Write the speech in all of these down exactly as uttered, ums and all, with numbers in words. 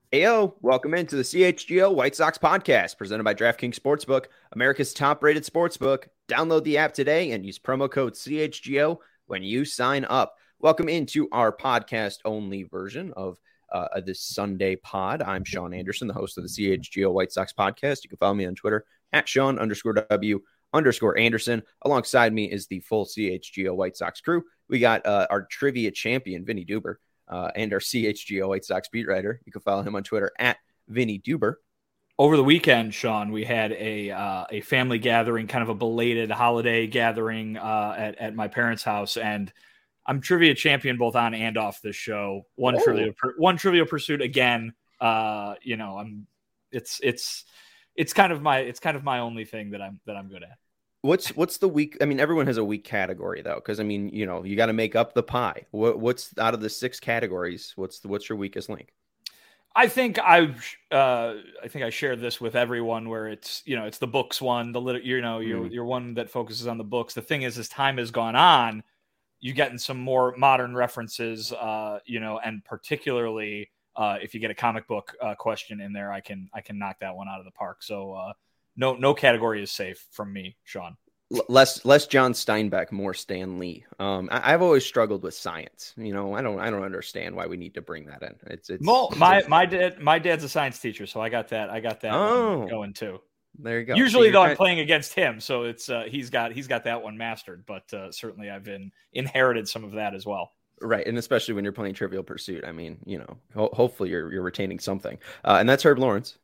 Heyo, welcome into the C H G O White Sox podcast presented by DraftKings Sportsbook, America's top-rated sportsbook. Download the app today and use promo code C H G O when you sign up. Welcome into our podcast-only version of uh, this Sunday pod. I'm Sean Anderson, the host of the C H G O White Sox podcast. You can follow me on Twitter at Sean underscore W underscore Anderson. Alongside me is the full C H G O White Sox crew. We got uh, our trivia champion, Vinny Duber. Uh, and our C H G O White Sox beat writer. You can follow him on Twitter at Vinny Duber. Over the weekend, Sean, we had a uh, a family gathering, kind of a belated holiday gathering uh, at, at my parents' house. And I'm trivia champion both on and off this show. One oh. trivia one trivia pursuit again. Uh, you know, I'm it's it's it's kind of my it's kind of my only thing that I'm that I'm good at. What's what's the week? I mean, everyone has a weak category though, because I mean, you know, you got to make up the pie. What, what's out of the six categories? What's the, what's your weakest link? I think I uh, I think I shared this with everyone where it's you know it's the books one, the little you know you're mm. you're one that focuses on the books. The thing is, as time has gone on, you getting some more modern references, uh, you know, and particularly uh, if you get a comic book uh, question in there, I can I can knock that one out of the park. So. Uh, No, no category is safe from me, Sean. Less, less John Steinbeck, more Stan Lee. Um, I, I've always struggled with science. You know, I don't, I don't understand why we need to bring that in. It's, it's well, my my dad, my dad's a science teacher, so I got that, I got that oh, going too. There you go. Usually, so though, kind I'm playing against him, so it's uh, he's got he's got that one mastered. But uh, certainly, I've been inherited some of that as well. Right, and especially when you're playing Trivial Pursuit. I mean, you know, ho- hopefully you're you're retaining something. Uh, and that's Herb Lawrence.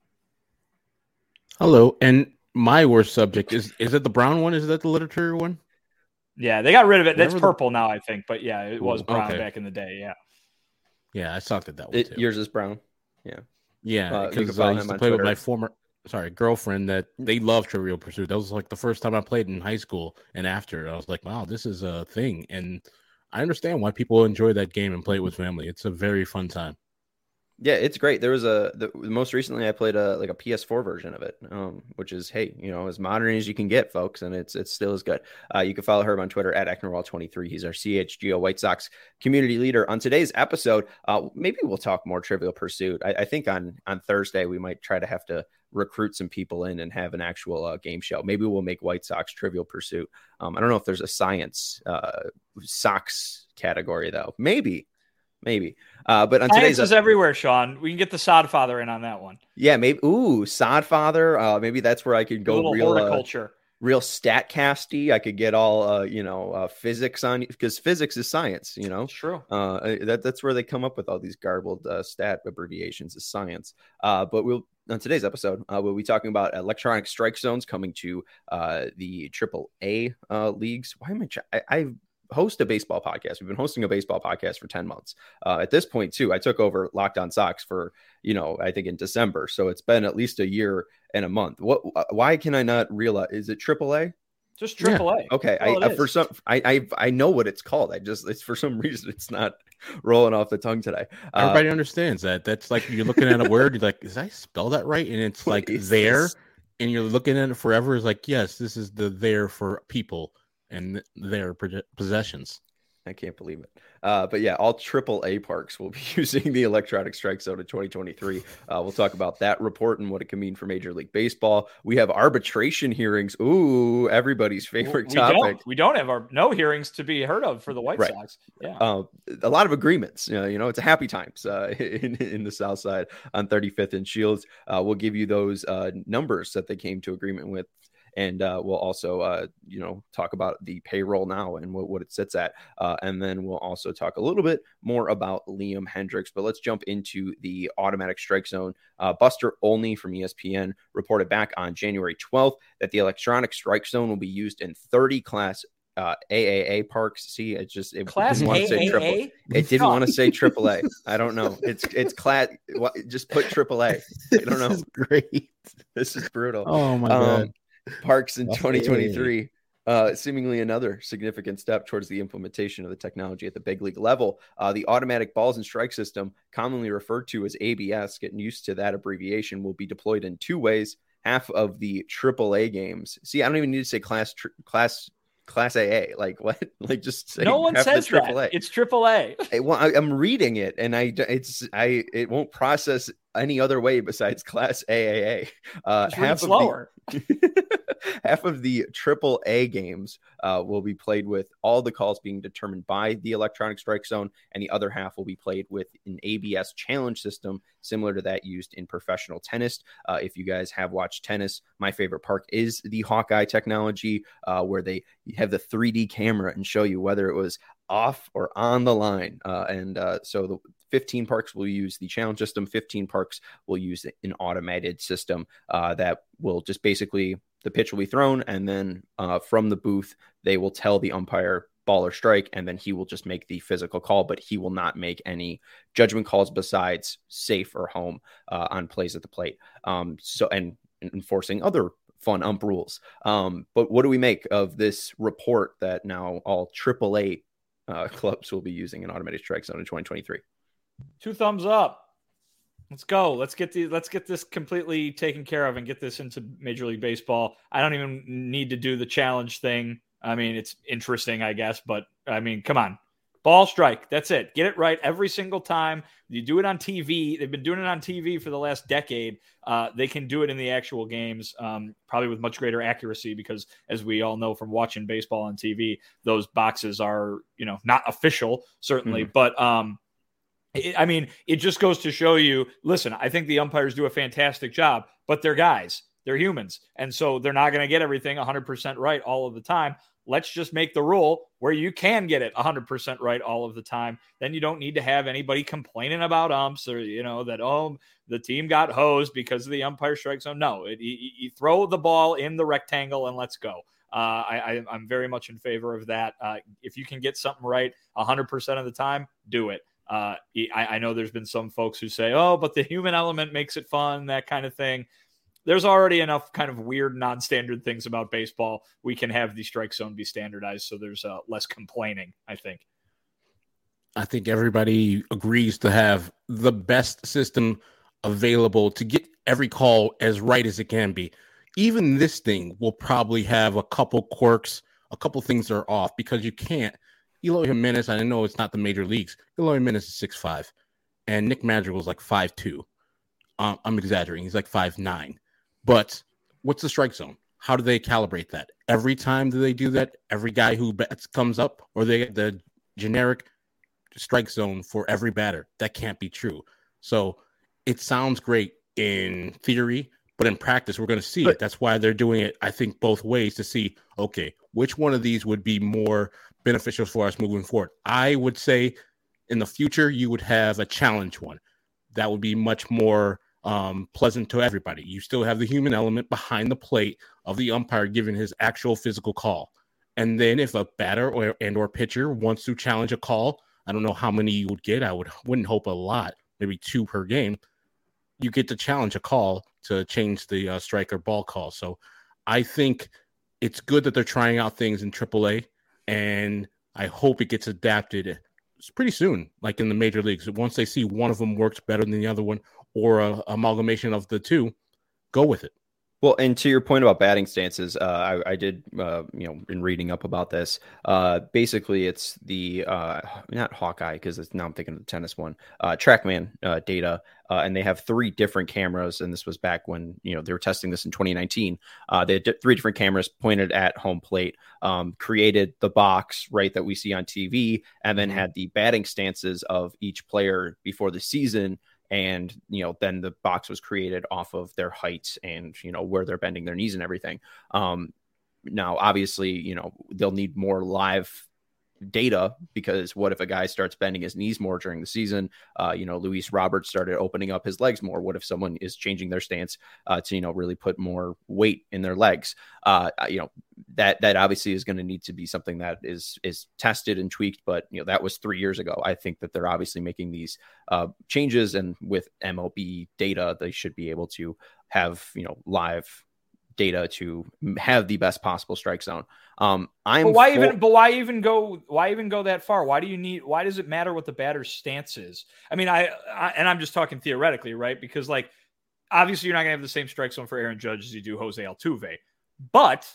Hello, and my worst subject is is it the brown one? Is that the literature one? Yeah, they got rid of it. That's Whatever purple the... now, I think. But yeah, it was brown okay. back in the day. Yeah. Yeah, I sucked at that one it, too. Yours is brown. Yeah. Yeah, because uh, I used to play Twitter. with my former sorry girlfriend that they love Trivial Pursuit. That was like the first time I played in high school, and after I was like, wow, this is a thing, and I understand why people enjoy that game and play it with family. It's a very fun time. Yeah, it's great. There was a the, most recently I played a like a P S four version of it, um, which is hey, you know, as modern as you can get, folks, and it's it's still as good. Uh, you can follow Herb on Twitter at Ecknerwall twenty-three. He's our C H G O White Sox community leader. On today's episode, uh, maybe we'll talk more Trivial Pursuit. I, I think on on Thursday we might try to have to recruit some people in and have an actual uh, game show. Maybe we'll make White Sox Trivial Pursuit. Um, I don't know if there's a science uh, Sox category though. Maybe. Maybe. Uh, but on Science today's is episode, everywhere, Sean. We can get the Sodfather in on that one. Yeah, maybe. Ooh, Sodfather. Uh, maybe that's where I could go. A little real horticulture. Uh, real statcasty. I could get all uh, you know, uh, physics on because physics is science. You know, it's true. Uh, that that's where they come up with all these garbled uh, stat abbreviations is science. Uh, but we'll on today's episode, uh, we'll be talking about electronic strike zones coming to uh, the triple A uh, leagues. Why am I? I I've host a baseball podcast. We've been hosting a baseball podcast for ten months. Uh, at this point, too, I took over Locked On Sox for, you know, I think in December. So it's been at least a year and a month. What? Why can I not realize? Is it triple A? Just triple A. Yeah. Okay. I, I for some, I, I I know what it's called. I just, it's for some reason, it's not rolling off the tongue today. Uh, Everybody understands that. That's like you're looking at a word. You're like, did I spell that right? And it's like there, this? And you're looking at it forever. It's like, yes, this is the there for people and their possessions. I can't believe it. Uh, but yeah, all triple A parks will be using the electronic strike zone in twenty twenty-three. Uh, we'll talk about that report and what it can mean for Major League Baseball. We have arbitration hearings. Ooh, everybody's favorite we topic. Don't, we don't have our no hearings to be heard of for the White right. Sox. Yeah, uh, a lot of agreements. You know, you know it's a happy times uh, in in the South Side on thirty-fifth and Shields. Uh, we'll give you those uh, numbers that they came to agreement with. And uh, we'll also, uh, you know, talk about the payroll now and what, what it sits at. Uh, and then we'll also talk a little bit more about Liam Hendriks. But let's jump into the automatic strike zone. Uh, Buster Olney from E S P N reported back on January twelfth that the electronic strike zone will be used in thirty class uh, A A A parks. See, it just it class didn't want to say triple. It didn't want to say triple A. I don't know. It's it's class. Just put triple A. I don't know. This is great. This is brutal. Oh my god. Um, Parks in twenty twenty-three, uh, seemingly another significant step towards the implementation of the technology at the big league level. Uh, the automatic balls and strike system, commonly referred to as A B S, getting used to that abbreviation, will be deployed in two ways. Half of the triple A games. See, I don't even need to say class tr- class class A A. Like what? Like just say no one says triple A. It's triple A. I, well, I, I'm reading it, and I it's I it won't process any other way besides Class A A A. Uh, half of slower. The, half of the triple A games uh, will be played with all the calls being determined by the electronic strike zone, and the other half will be played with an A B S challenge system similar to that used in professional tennis. Uh, if you guys have watched tennis, my favorite part is the Hawkeye technology, uh, where they have the three D camera and show you whether it was off or on the line. Uh, and uh, so the fifteen parks will use the challenge system. fifteen parks will use an automated system uh, that will just basically, the pitch will be thrown, and then uh, from the booth, they will tell the umpire ball or strike, and then he will just make the physical call, but he will not make any judgment calls besides safe or home uh, on plays at the plate. Um, so, and enforcing other fun ump rules. Um, but what do we make of this report that now all triple A uh, clubs will be using an automated strike zone in twenty twenty-three? Two thumbs up. Let's go. Let's get the let's get this completely taken care of and get this into Major League Baseball. I don't even need to do the challenge thing. I mean, it's interesting, I guess, but I mean, come on. Ball strike. That's it. Get it right every single time. You do it on T V. They've been doing it on T V for the last decade. Uh, they can do it in the actual games, um, probably with much greater accuracy, because as we all know from watching baseball on T V, those boxes are, you know, not official, certainly. Mm-hmm. But, um, it, I mean, it just goes to show you, listen, I think the umpires do a fantastic job, but they're guys. They're humans. And so they're not going to get everything one hundred percent right all of the time. Let's just make the rule where you can get it one hundred percent right all of the time. Then you don't need to have anybody complaining about umps or, you know, that, oh, the team got hosed because of the umpire strike zone. No, it, you, you throw the ball in the rectangle and let's go. Uh, I, I, I'm very much in favor of that. Uh, if you can get something right one hundred percent of the time, do it. Uh, I, I know there's been some folks who say, oh, but the human element makes it fun, that kind of thing. There's already enough kind of weird non-standard things about baseball. We can have the strike zone be standardized, so there's uh, less complaining, I think. I think everybody agrees to have the best system available to get every call as right as it can be. Even this thing will probably have a couple quirks, a couple things that are off, because you can't. Eloy Jimenez, I know it's not the major leagues. Eloy Jimenez is six five, and Nick Madrigal is like five two. Um, I'm exaggerating. He's like five nine. But what's the strike zone? How do they calibrate that? Every time do they do that? Every guy who bats comes up, or they get the generic strike zone for every batter? That can't be true. So it sounds great in theory, but in practice, we're going to see but, it. That's why they're doing it, I think, both ways to see, okay, which one of these would be more beneficial for us moving forward. I would say in the future, you would have a challenge one. That would be much more Um, pleasant to everybody. You still have the human element behind the plate of the umpire giving his actual physical call. And then if a batter or and or pitcher wants to challenge a call, I don't know how many you would get. I would wouldn't hope a lot, maybe two per game. You get to challenge a call to change the uh, strike or ball call. So I think it's good that they're trying out things in triple A, and I hope it gets adapted pretty soon, like in the major leagues. Once they see one of them works better than the other one, or a amalgamation of the two, go with it. Well, and to your point about batting stances, uh, I, I did, uh, you know, in reading up about this, uh, basically it's the, uh, not Hawkeye, because it's now I'm thinking of the tennis one, uh, TrackMan uh, data, uh, and they have three different cameras, and this was back when, you know, they were testing this in twenty nineteen. Uh, they had d- three different cameras pointed at home plate, um, created the box, right, that we see on T V, and then had the batting stances of each player before the season. And, you know, then the box was created off of their heights and, you know, where they're bending their knees and everything. Um, now, obviously, you know, they'll need more live data, because what if a guy starts bending his knees more during the season? Uh, you know, Luis Roberts started opening up his legs more. What if someone is changing their stance uh, to, you know, really put more weight in their legs? Uh, you know, that that obviously is going to need to be something that is is tested and tweaked. But, you know, that was three years ago. I think that they're obviously making these uh, changes, and with M L B data, they should be able to have, you know, live data to have the best possible strike zone. Um, I'm but why for- even, but why even go, why even go that far? Why do you need, why does it matter what the batter's stance is? I mean, I, I and I'm just talking theoretically, right? Because, like, obviously you're not gonna have the same strike zone for Aaron Judge as you do Jose Altuve, but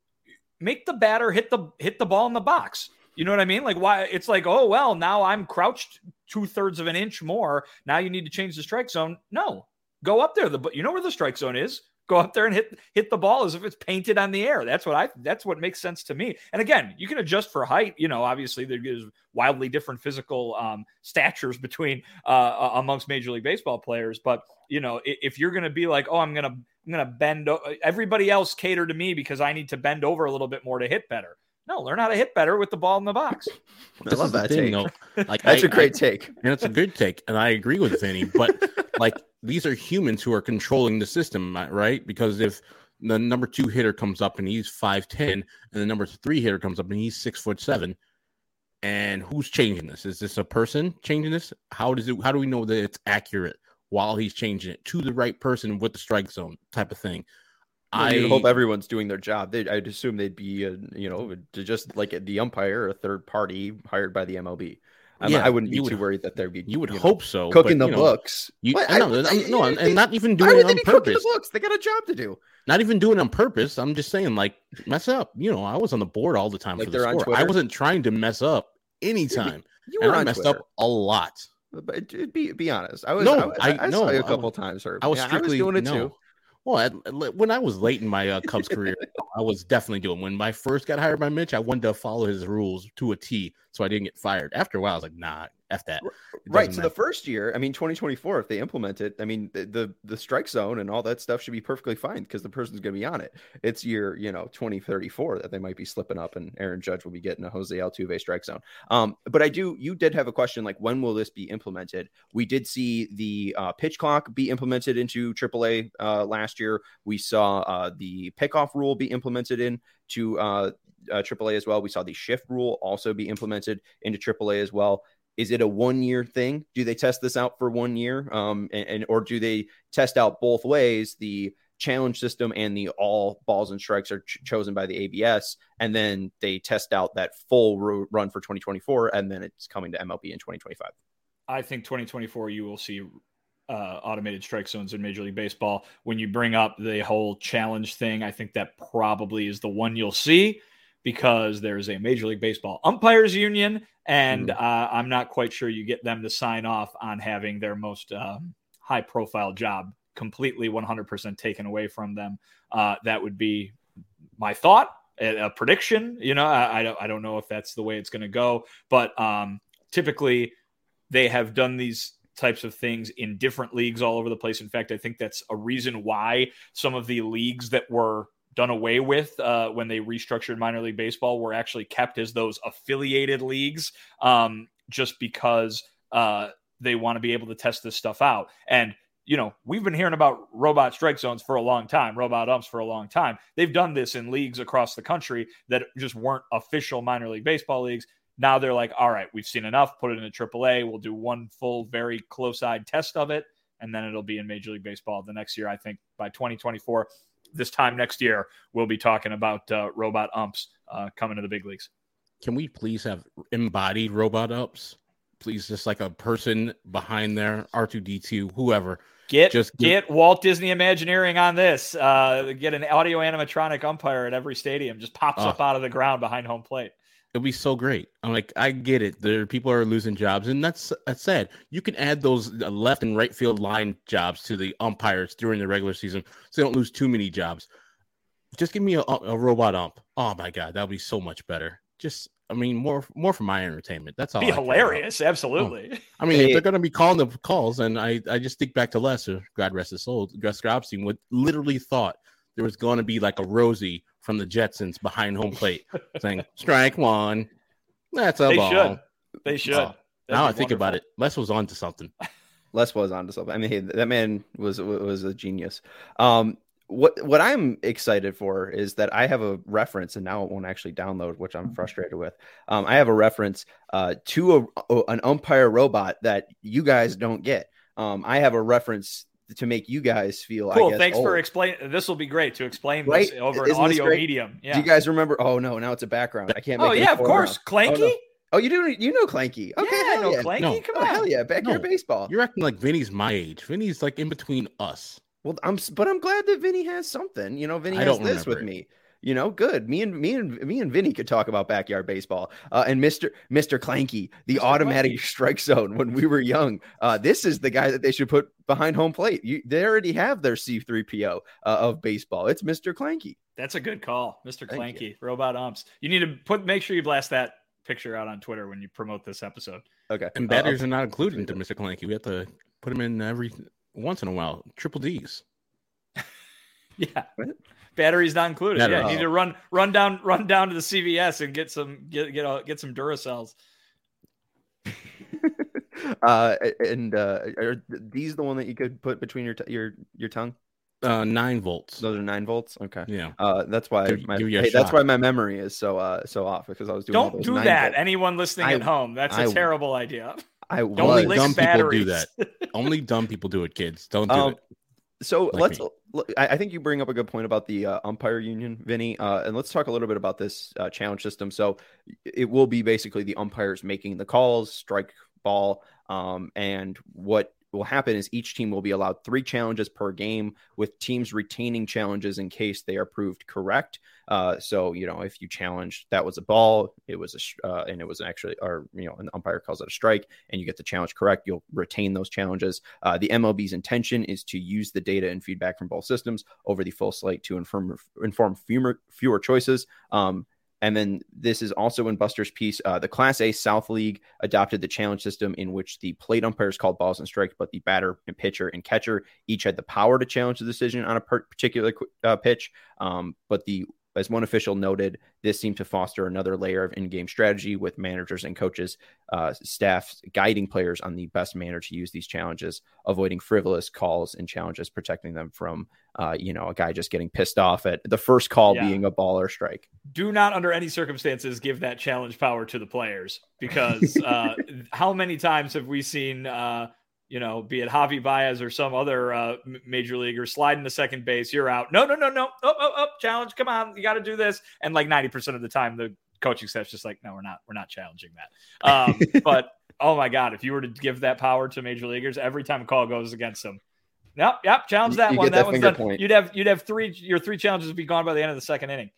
make the batter hit the, hit the ball in the box. You know what I mean? Like, why it's like, oh, well, now I'm crouched two thirds of an inch more. Now you need to change the strike zone. No, go up there. The you know where the strike zone is. Go up there and hit hit the ball as if it's painted on the air. That's what I. That's what makes sense to me. And again, you can adjust for height. You know, obviously there's wildly different physical um, statures between uh, amongst Major League Baseball players. But you know, if you're going to be like, oh, I'm gonna I'm gonna bend. Everybody else cater to me because I need to bend over a little bit more to hit better. No, learn how to hit better with the ball in the box. I love that thing, take. Though. Like, That's I, a great I, take. And it's a good take. And I agree with Vinny. But like, these are humans who are controlling the system, right? Because if the number two hitter comes up and he's five ten, and the number three hitter comes up and he's six foot seven, and who's changing this? Is this a person changing this? How does it? How do we know that it's accurate while he's changing it to the right person with the strike zone type of thing? Well, I hope everyone's doing their job. They, I'd assume they'd be, uh, you know, just like the umpire, a third party hired by the M L B. I'm, yeah, I wouldn't be too would, worried that there'd be. You would you hope know, so. Cooking but, the you know, books. You, what? no, I, I, no, I, and not even why doing would it they on be cooking purpose. the books? They got a job to do. Not even doing it on purpose. I'm just saying, like, mess up. You know, I was on the board all the time like for the score. I wasn't trying to mess up anytime. You were and on I messed Twitter. up a lot. But be be honest. I was. No, I, I, I, I no, saw you a I couple was, times, Herb. I was yeah, strictly I was doing it no. too. Well, I, when I was late in my uh, Cubs career, I was definitely doing. When I first got hired by Mitch, I wanted to follow his rules to a T, so I didn't get fired. After a while, I was like, "Nah, f that." Right. So matter. the first year, I mean, twenty twenty-four, if they implement it, I mean, the the, the strike zone and all that stuff should be perfectly fine because the person's going to be on it. It's year, you know, twenty thirty-four that they might be slipping up, and Aaron Judge will be getting a Jose Altuve strike zone. Um, but I do, you did have a question like, when will this be implemented? We did see the uh, pitch clock be implemented into triple A uh, last year. We saw uh, the pickoff rule be implemented into uh, uh, triple A as well. We saw the shift rule also be implemented into triple A as well. Is it a one-year thing? Do they test this out for one year? Um, and, and or do they test out both ways, the challenge system and the all balls and strikes are ch- chosen by the A B S, and then they test out that full ro- run for twenty twenty-four, and then it's coming to M L B in twenty twenty-five? I think twenty twenty-four you will see uh, automated strike zones in Major League Baseball. When you bring up the whole challenge thing, I think that probably is the one you'll see, because there's a Major League Baseball umpires union, and mm-hmm. uh, I'm not quite sure you get them to sign off on having their most um, high profile job completely one hundred percent taken away from them. Uh, that would be my thought, a, a prediction. You know, I, I don't, I don't know if that's the way it's going to go, but um, typically they have done these types of things in different leagues all over the place. In fact, I think that's a reason why some of the leagues that were done away with uh, when they restructured minor league baseball were actually kept as those affiliated leagues, um, just because uh, they want to be able to test this stuff out. And, you know, we've been hearing about robot strike zones for a long time, robot umps for a long time. They've done this in leagues across the country that just weren't official minor league baseball leagues. Now they're like, all right, we've seen enough, put it in a triple A. We'll do one full, very close-eyed test of it, and then it'll be in Major League Baseball the next year. I think by twenty twenty-four, this time next year, we'll be talking about uh, robot umps uh, coming to the big leagues. Can we please have embodied robot umps? Please, just like a person behind there, R two D two, whoever. Get just get, get Walt Disney Imagineering on this. Uh, get an audio animatronic umpire at every stadium. Just pops uh, up out of the ground behind home plate. It'll be so great. I'm like, I get it. There, people are losing jobs, and that's that's sad. You can add those left and right field line jobs to the umpires during the regular season, so they don't lose too many jobs. Just give me a, a robot ump. Oh my god, that'll be so much better. Just, I mean, more more for my entertainment. That's all. Be hilarious, absolutely. Oh. I mean, if they're going to be calling the calls, and I, I just think back to Lester, God rest his soul. Gus Grobstein would literally thought there was going to be like a Rosie from the Jetsons behind home plate saying strike one. That's a they ball. Should. They should. Oh, now I think wonderful. About it. Les was on to something. Les was on to something. I mean, hey, that man was was a genius. Um, what what I'm excited for is that I have a reference, and now it won't actually download, which I'm frustrated with. Um, I have a reference uh, to a, an umpire robot that you guys don't get. Um, I have a reference to make you guys feel cool. I guess, Thanks old. for explaining. This will be great to explain right? this over Isn't an audio medium. Yeah. Do you guys remember? Oh no, now it's a background. I can't. Make oh yeah, of course, Clanky. Oh, no. oh, you do. You know Clanky. Okay, yeah, I know yeah. Clanky. No. Come oh, on, hell yeah, backyard no. baseball. You're acting like Vinny's my age. Vinny's like in between us. Well, I'm, but I'm glad that Vinny has something. You know, Vinny I has don't this with it. me. You know, good. Me and me and me and Vinny could talk about backyard baseball. Uh, and Mister Mister Clanky, the Mister automatic Clanky. Strike zone when we were young. Uh, this is the guy that they should put behind home plate. You, they already have their C three P O uh, of baseball. It's Mister Clanky. That's a good call, Mister Clanky, robot umps. You need to put make sure you blast that picture out on Twitter when you promote this episode. Okay. And batters uh, are not included into Mister Clanky. We have to put him in every once in a while. Triple D's. Yeah. What? Batteries not included. Not yeah, you need to run run down run down to the C V S and get some get get a, get some Duracells. uh, and uh, are these the one that you could put between your t- your your tongue? Uh, nine volts. Those are nine volts. Okay. Yeah. Uh, that's why give, my give hey, that's why my memory is so uh so off because I was doing. Don't do that. Volts. Anyone listening I, at home, that's a I, terrible idea. I don't only dumb batteries. people do that. Only dumb people do it, kids. Don't do um, it. So like let's. Me. I think you bring up a good point about the uh, umpire union, Vinny, uh, and let's talk a little bit about this uh, challenge system. So it will be basically the umpires making the calls, strike, ball, um, and what will happen is each team will be allowed three challenges per game, with teams retaining challenges in case they are proved correct. Uh, so, you know, if you challenged that was a ball, it was a, uh, and it was actually, or, you know, an umpire calls it a strike and you get the challenge correct, you'll retain those challenges. Uh, the M L B's intention is to use the data and feedback from both systems over the full slate to inform, inform fewer, fewer choices. Um, And then this is also in Buster's piece. Uh, the Class A South League adopted the challenge system in which the plate umpires called balls and strikes, but the batter and pitcher and catcher each had the power to challenge the decision on a particular uh, pitch. Um, but the as one official noted, this seemed to foster another layer of in-game strategy with managers and coaches, uh, staff guiding players on the best manner to use these challenges, avoiding frivolous calls and challenges, protecting them from, uh, you know, a guy just getting pissed off at the first call yeah. being a ball or strike. Do not, under any circumstances, give that challenge power to the players because uh, how many times have we seen, uh, you know, be it Javi Baez or some other uh, major leaguer sliding to second base, you're out. No, no, no, no. Oh, oh, oh, challenge. Come on. You got to do this. And like ninety percent of the time, the coaching staff's just like, no, we're not, we're not challenging that. Um, but oh my God, if you were to give that power to major leaguers, every time a call goes against them, Yep, yep, challenge that you one. That, that one's done. Point. You'd have you'd have three your three challenges would be gone by the end of the second inning.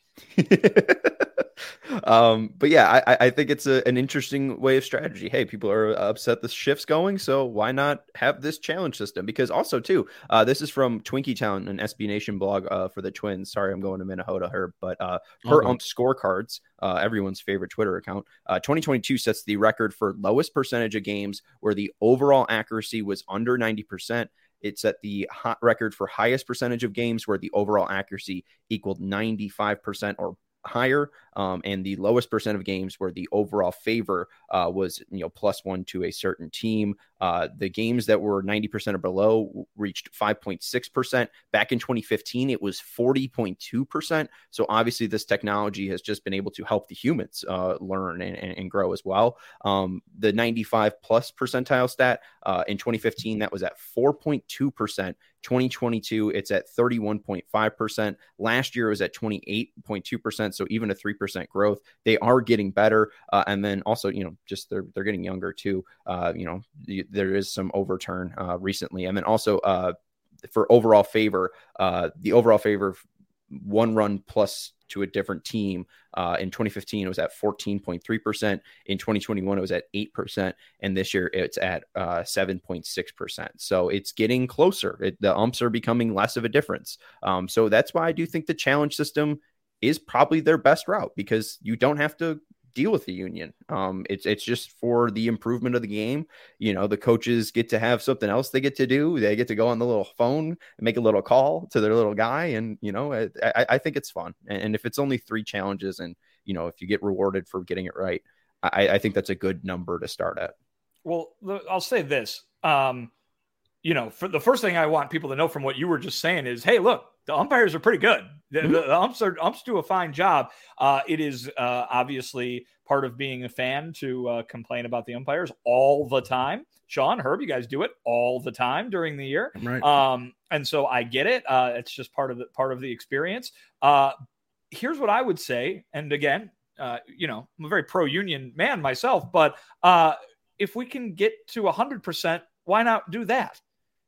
um, but yeah, I, I think it's a, an interesting way of strategy. Hey, people are upset the shift's going, so why not have this challenge system? Because also too, uh, this is from Twinkie Town, an S B Nation blog uh, for the Twins. Sorry, I'm going to Minnesota, Herb, but uh, per okay. ump scorecards, uh, everyone's favorite Twitter account, uh, twenty twenty-two sets the record for lowest percentage of games where the overall accuracy was under ninety percent. It set the hot record for highest percentage of games where the overall accuracy equaled ninety-five percent or higher, um, and the lowest percent of games where the overall favor uh, was, you know, plus one to a certain team. Uh, the games that were ninety percent or below reached five point six percent. Back in twenty fifteen, it was forty point two percent. So obviously this technology has just been able to help the humans uh, learn and, and, and grow as well. Um, the ninety-five plus percentile stat uh, in twenty fifteen, that was at four point two percent. twenty twenty-two, it's at thirty-one point five percent. Last year it was at twenty-eight point two percent. So even a three percent growth. They are getting better. Uh, and then also, you know, just they're, they're getting younger too. Uh, you know, the, there is some overturn uh, recently. And then also uh, for overall favor, uh, the overall favor one run plus to a different team. Uh, in twenty fifteen, it was at fourteen point three percent. In twenty twenty-one, it was at eight percent. And this year it's at uh, seven point six percent. So it's getting closer. It, the umps are becoming less of a difference. Um, so that's why I do think the challenge system is probably their best route, because you don't have to deal with the union. Um, it's it's just for the improvement of the game. You know, the coaches get to have something else they get to do. They get to go on the little phone and make a little call to their little guy. And, you know, I, I think it's fun. And if it's only three challenges and, you know, if you get rewarded for getting it right, I, I think that's a good number to start at. Well, I'll say this. Um, you know, for the first thing I want people to know from what you were just saying is, hey, look, the umpires are pretty good. The, mm-hmm. the umps are umps do a fine job. Uh, it is uh, obviously part of being a fan to uh, complain about the umpires all the time. Sean, Herb, you guys do it all the time during the year, right? Um, and so I get it. Uh, it's just part of the part of the experience. Uh, here's what I would say, and again, uh, you know, I'm a very pro-union man myself, but uh, if we can get to one hundred percent, why not do that?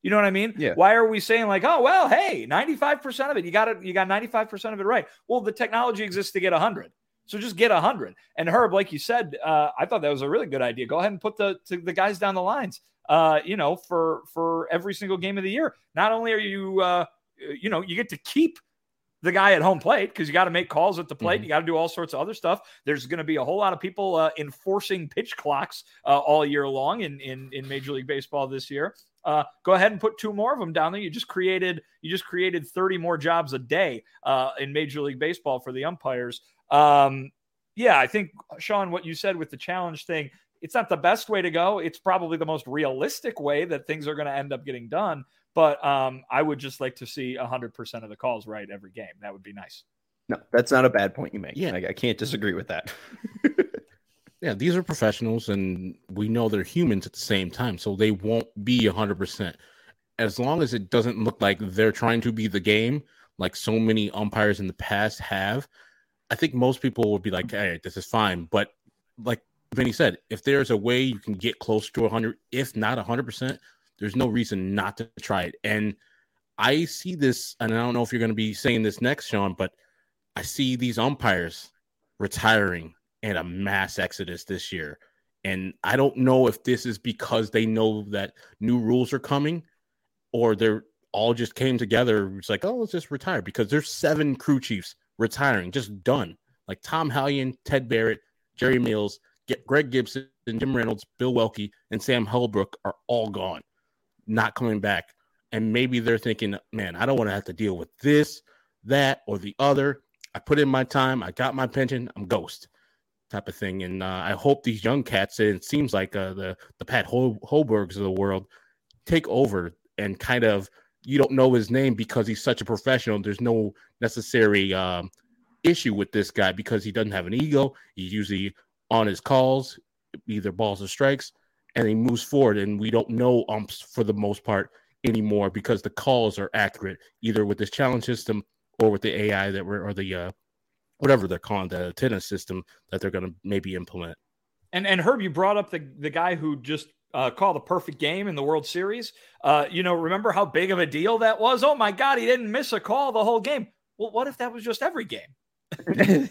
You know what I mean? Yeah. Why are we saying like, oh, well, hey, ninety-five percent of it, you got it, you got ninety-five percent of it right. Well, the technology exists to get one hundred. So just get one hundred. And Herb, like you said, uh, I thought that was a really good idea. Go ahead and put the to the guys down the lines, uh, you know, for for every single game of the year. Not only are you, uh, you know, you get to keep the guy at home plate because you got to make calls at the plate. Mm-hmm. You got to do all sorts of other stuff. There's going to be a whole lot of people uh, enforcing pitch clocks uh, all year long in, in, in Major League Baseball this year. Uh, go ahead and put two more of them down there. You just created, you just created thirty more jobs a day uh, in Major League Baseball for the umpires. Um, yeah, I think, Sean, what you said with the challenge thing, it's not the best way to go. It's probably the most realistic way that things are going to end up getting done. But um, I would just like to see one hundred percent of the calls right every game. That would be nice. No, that's not a bad point you make. Yeah, I, I can't disagree with that. Yeah, these are professionals, and we know they're humans at the same time, so they won't be one hundred percent. As long as it doesn't look like they're trying to be the game, like so many umpires in the past have, I think most people would be like, hey, this is fine. But like Vinny said, if there's a way you can get close to one hundred, if not one hundred percent, there's no reason not to try it. And I see this, and I don't know if you're going to be saying this next, Sean, but I see these umpires retiring and a mass exodus this year. And I don't know if this is because they know that new rules are coming or they're all just came together. It's like, oh, let's just retire, because there's seven crew chiefs retiring, just done. Like Tom Hallion, Ted Barrett, Jerry Mills, Greg Gibson, Jim Reynolds, Bill Welke, and Sam Holbrook are all gone, not coming back. And maybe they're thinking, man, I don't want to have to deal with this, that, or the other. I put in my time. I got my pension. I'm ghost type of thing. And uh, I hope these young cats, and it seems like uh, the, the Pat Hol- Holbergs of the world, take over and kind of, you don't know his name because he's such a professional. There's no necessary um, issue with this guy because he doesn't have an ego. He's usually on his calls, either balls or strikes, and he moves forward. And we don't know umps for the most part anymore because the calls are accurate, either with this challenge system or with the A I that we're, or the uh, whatever they're calling the tennis system that they're going to maybe implement. And and Herb, you brought up the the guy who just uh, called a perfect game in the World Series. Uh, you know, remember how big of a deal that was? Oh my God, he didn't miss a call the whole game. Well, what if that was just every game?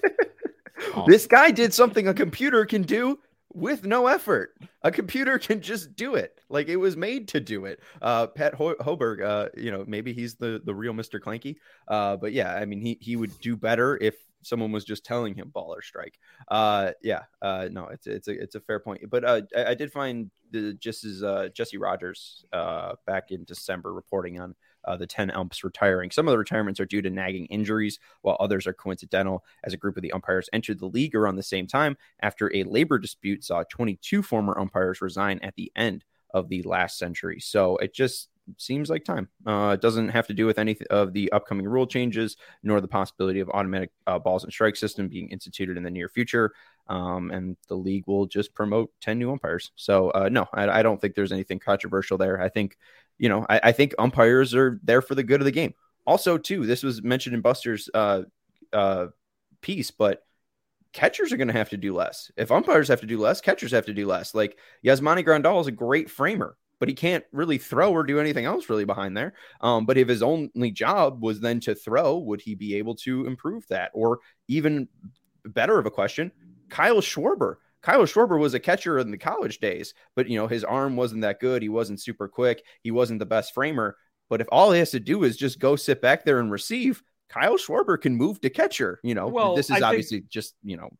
This guy did something a computer can do with no effort. A computer can just do it. Like, it was made to do it. Uh, Pat Ho- Hoberg, uh, you know, maybe he's the, the real Mister Clanky. Uh, but yeah, I mean, he, he would do better if someone was just telling him ball or strike. Uh, yeah, uh, no, it's, it's a, it's a fair point. But uh, I, I did find the, just as uh, Jesse Rogers uh, back in December reporting on Uh, the ten umps retiring. Some of the retirements are due to nagging injuries, while others are coincidental, as a group of the umpires entered the league around the same time after a labor dispute saw twenty-two former umpires resign at the end of the last century. So it just seems like time. Uh, it doesn't have to do with any of the upcoming rule changes, nor the possibility of automatic uh, balls and strike system being instituted in the near future. Um, and the league will just promote ten new umpires. So uh, no, I, I don't think there's anything controversial there. I think, you know, I, I think umpires are there for the good of the game. Also, too, this was mentioned in Buster's uh, uh, piece, but catchers are going to have to do less. If umpires have to do less, catchers have to do less. Like, Yasmani Grandal is a great framer, but he can't really throw or do anything else really behind there. Um, but if his only job was then to throw, would he be able to improve that? Or even better of a question, Kyle Schwarber. Kyle Schwarber was a catcher in the college days, but, you know, his arm wasn't that good. He wasn't super quick. He wasn't the best framer. But if all he has to do is just go sit back there and receive, Kyle Schwarber can move to catcher. You know, well, this is I obviously think, just, you know,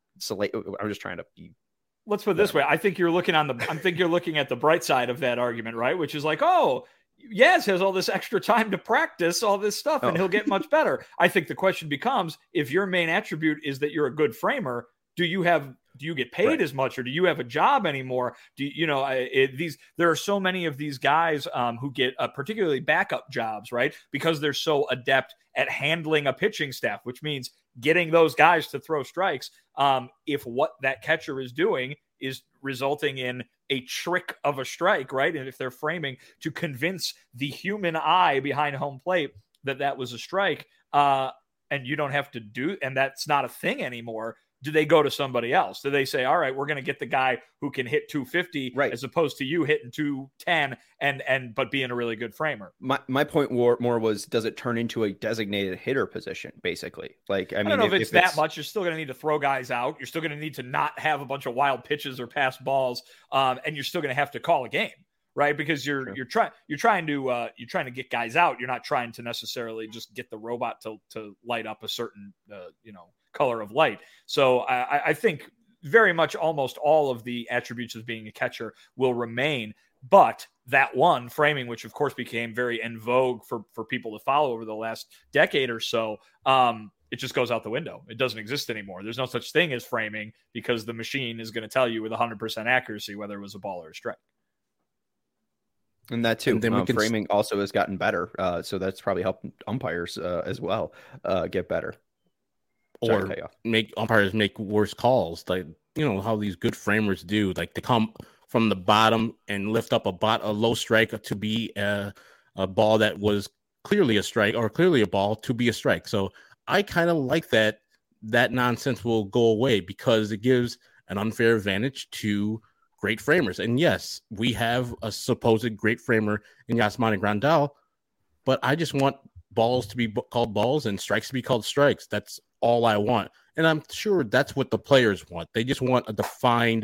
I'm just trying to be. Let's put it this way. I think you're looking on the, I think you're looking at the bright side of that argument, right? Which is like, oh, Yaz has all this extra time to practice all this stuff and oh. he'll get much better. I think the question becomes, if your main attribute is that you're a good framer, do you have, do you get paid right. as much, or do you have a job anymore? Do you, you know, it, these, there are so many of these guys um, who get uh, particularly backup jobs, right? Because they're so adept at handling a pitching staff, which means getting those guys to throw strikes. Um, if what that catcher is doing is resulting in a trick of a strike, right? And if they're framing to convince the human eye behind home plate that that was a strike, uh, and you don't have to do, and that's not a thing anymore, do they go to somebody else? Do they say, all right, we're going to get the guy who can hit two fifty right, as opposed to you hitting two ten and, and, but being a really good framer? My, my point more, more was, does it turn into a designated hitter position, basically? Like, I, I mean, don't know if, if it's if that it's... much. You're still going to need to throw guys out. You're still going to need to not have a bunch of wild pitches or pass balls. Um, and you're still going to have to call a game, right? Because you're, sure. you're trying, you're trying to, uh, you're trying to get guys out. You're not trying to necessarily just get the robot to, to light up a certain, uh, you know, color of light. So I, I think very much almost all of the attributes of being a catcher will remain, but that one framing, which of course became very en vogue for, for people to follow over the last decade or so, um, it just goes out the window. It doesn't exist anymore. There's no such thing as framing because the machine is going to tell you with one hundred percent accuracy whether it was a ball or a strike. And that too. And then uh, framing st- also has gotten better. Uh, so that's probably helped umpires uh, as well uh, get better. Or make umpires make worse calls, like, you know, how these good framers do. Like, they come from the bottom and lift up a bot a low strike to be a, a ball that was clearly a strike, or clearly a ball to be a strike. So I kind of like that. That nonsense will go away because it gives an unfair advantage to great framers. And yes, we have a supposed great framer in Yasmani Grandal, but I just want balls to be b- called balls and strikes to be called strikes. That's all I want. And I'm sure that's what the players want. They just want a defined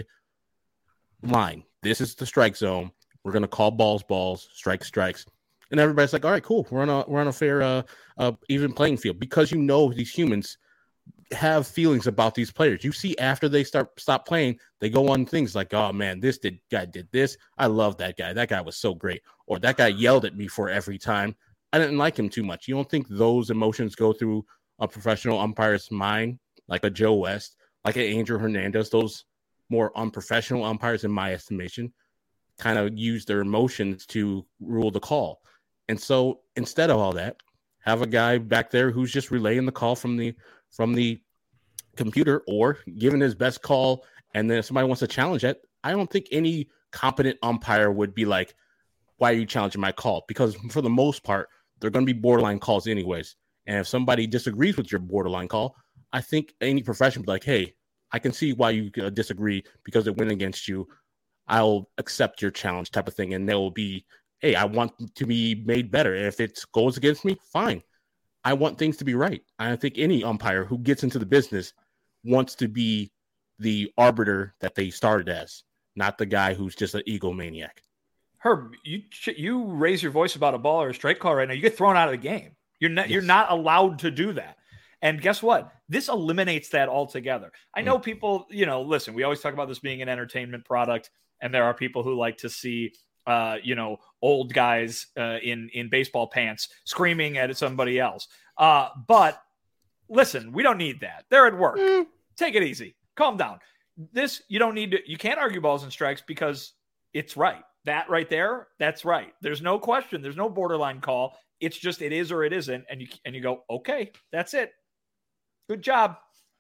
line. This is the strike zone. We're going to call balls, balls, strikes, strikes. And everybody's like, all right, cool. We're on a, we're on a fair, uh, uh, even playing field, because, you know, these humans have feelings about these players. You see, after they start, stop playing, they go on things like, oh man, this did, guy did this. I love that guy. That guy was so great. Or that guy yelled at me for every time. I didn't like him too much. You don't think those emotions go through a professional umpire's mind, like a Joe West, like an Angel Hernandez? Those more unprofessional umpires, in my estimation, kind of use their emotions to rule the call. And so instead of all that, have a guy back there who's just relaying the call from the from the computer, or giving his best call. And then if somebody wants to challenge it, I don't think any competent umpire would be like, why are you challenging my call? Because for the most part, they're going to be borderline calls anyways. And if somebody disagrees with your borderline call, I think any professional will be like, hey, I can see why you uh, disagree because it went against you. I'll accept your challenge, type of thing. And there will be, hey, I want to be made better. If it goes against me, fine. I want things to be right. I think any umpire who gets into the business wants to be the arbiter that they started as, not the guy who's just an egomaniac. Herb, you you raise your voice about a ball or a strike call right now, you get thrown out of the game. You're not yes. you're not allowed to do that. And guess what? This eliminates that altogether. I know mm. people, you know, listen, we always talk about this being an entertainment product, and there are people who like to see uh, you know, old guys uh, in in baseball pants screaming at somebody else. Uh, but listen, we don't need that. They're at work. Mm. Take it easy. Calm down. This, you don't need to, you can't argue balls and strikes because it's right. That right there, that's right. There's no question. There's no borderline call. It's just it is or it isn't. And you and you go, okay, that's it. Good job.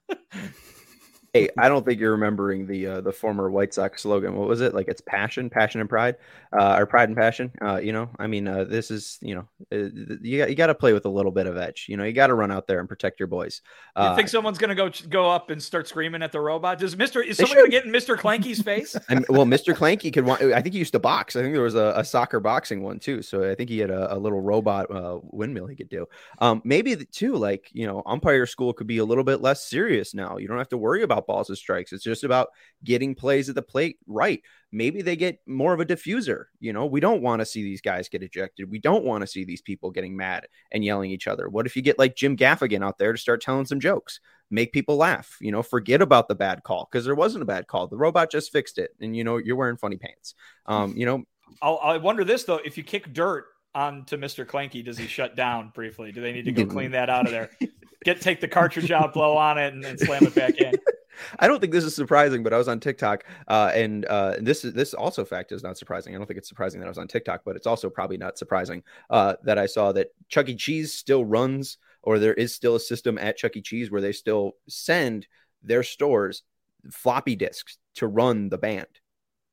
Hey, I don't think you're remembering the uh, the former White Sox slogan. What was it? Like, it's passion, passion and pride, uh, or pride and passion. Uh, you know, I mean, uh, this is, you know, uh, you got you got to play with a little bit of edge. You know, you got to run out there and protect your boys. Uh, you think someone's gonna go go up and start screaming at the robot? Does Mister is someone gonna get in Mister Clanky's face? And, well, Mister Clanky could want. I think he used to box. I think there was a, a soccer boxing one too. So I think he had a, a little robot uh, windmill he could do. Um, maybe the, too, like, you know, umpire school could be a little bit less serious now. You don't have to worry about balls and strikes. It's just about getting plays at the plate right. Maybe they get more of a diffuser. You know, we don't want to see these guys get ejected. We don't want to see these people getting mad and yelling at each other. What if you get like Jim Gaffigan out there to start telling some jokes, make people laugh, you know, forget about the bad call, because there wasn't a bad call. The robot just fixed it. And, you know, you're wearing funny pants. Um, you know, I'll, I wonder this, though, if you kick dirt onto Mister Clanky, does he shut down briefly? Do they need to go clean that out of there? Get take the cartridge out, blow on it, and then slam it back in. I don't think this is surprising, but I was on TikTok, uh, and uh, this is this also fact is not surprising. I don't think it's surprising that I was on TikTok, but it's also probably not surprising uh, that I saw that Chuck E. Cheese still runs, or there is still a system at Chuck E. Cheese where they still send their stores floppy disks to run the band.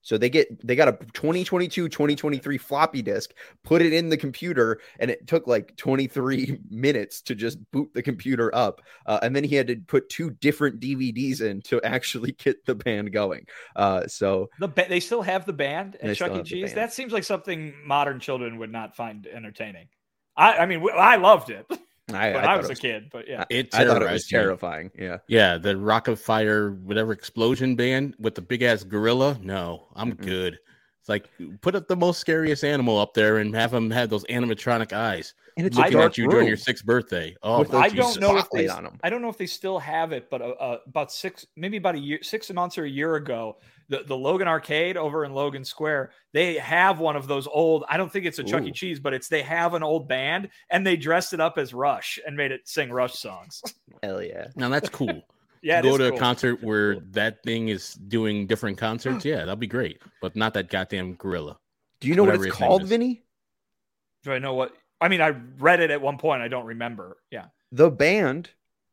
So they get they got a twenty twenty-two twenty twenty-three floppy disk, put it in the computer, and it took like twenty-three minutes to just boot the computer up. Uh, and then he had to put two different D V Ds in to actually get the band going. Uh, so the ba- they still have the band at Chuck E. Cheese. Band. That seems like something modern children would not find entertaining. I, I mean, I loved it. I, when I, I was, was a kid, but yeah, it I thought it was terrifying. Yeah, yeah, the Rocket Fire, whatever explosion band with the big ass gorilla. No, I'm mm-hmm. good. It's like put up the most scariest animal up there and have them have those animatronic eyes and it's looking at you room. during your sixth birthday. Oh, I don't know if they, on them. I don't know if they still have it, but uh, uh, about six, maybe about a year, six months or a year ago, the, the Logan Arcade over in Logan Square, they have one of those old, I don't think it's a Ooh. Chuck E. Cheese, but it's, they have an old band and they dressed it up as Rush and made it sing Rush songs. Hell yeah. Now that's cool. Yeah, to go to cool. a concert where cool. that thing is doing different concerts. Yeah, that'd be great, but not that goddamn gorilla. Do you know what it's called, Vinny? Do I know what? I mean, I read it at one point. I don't remember. Yeah. The band,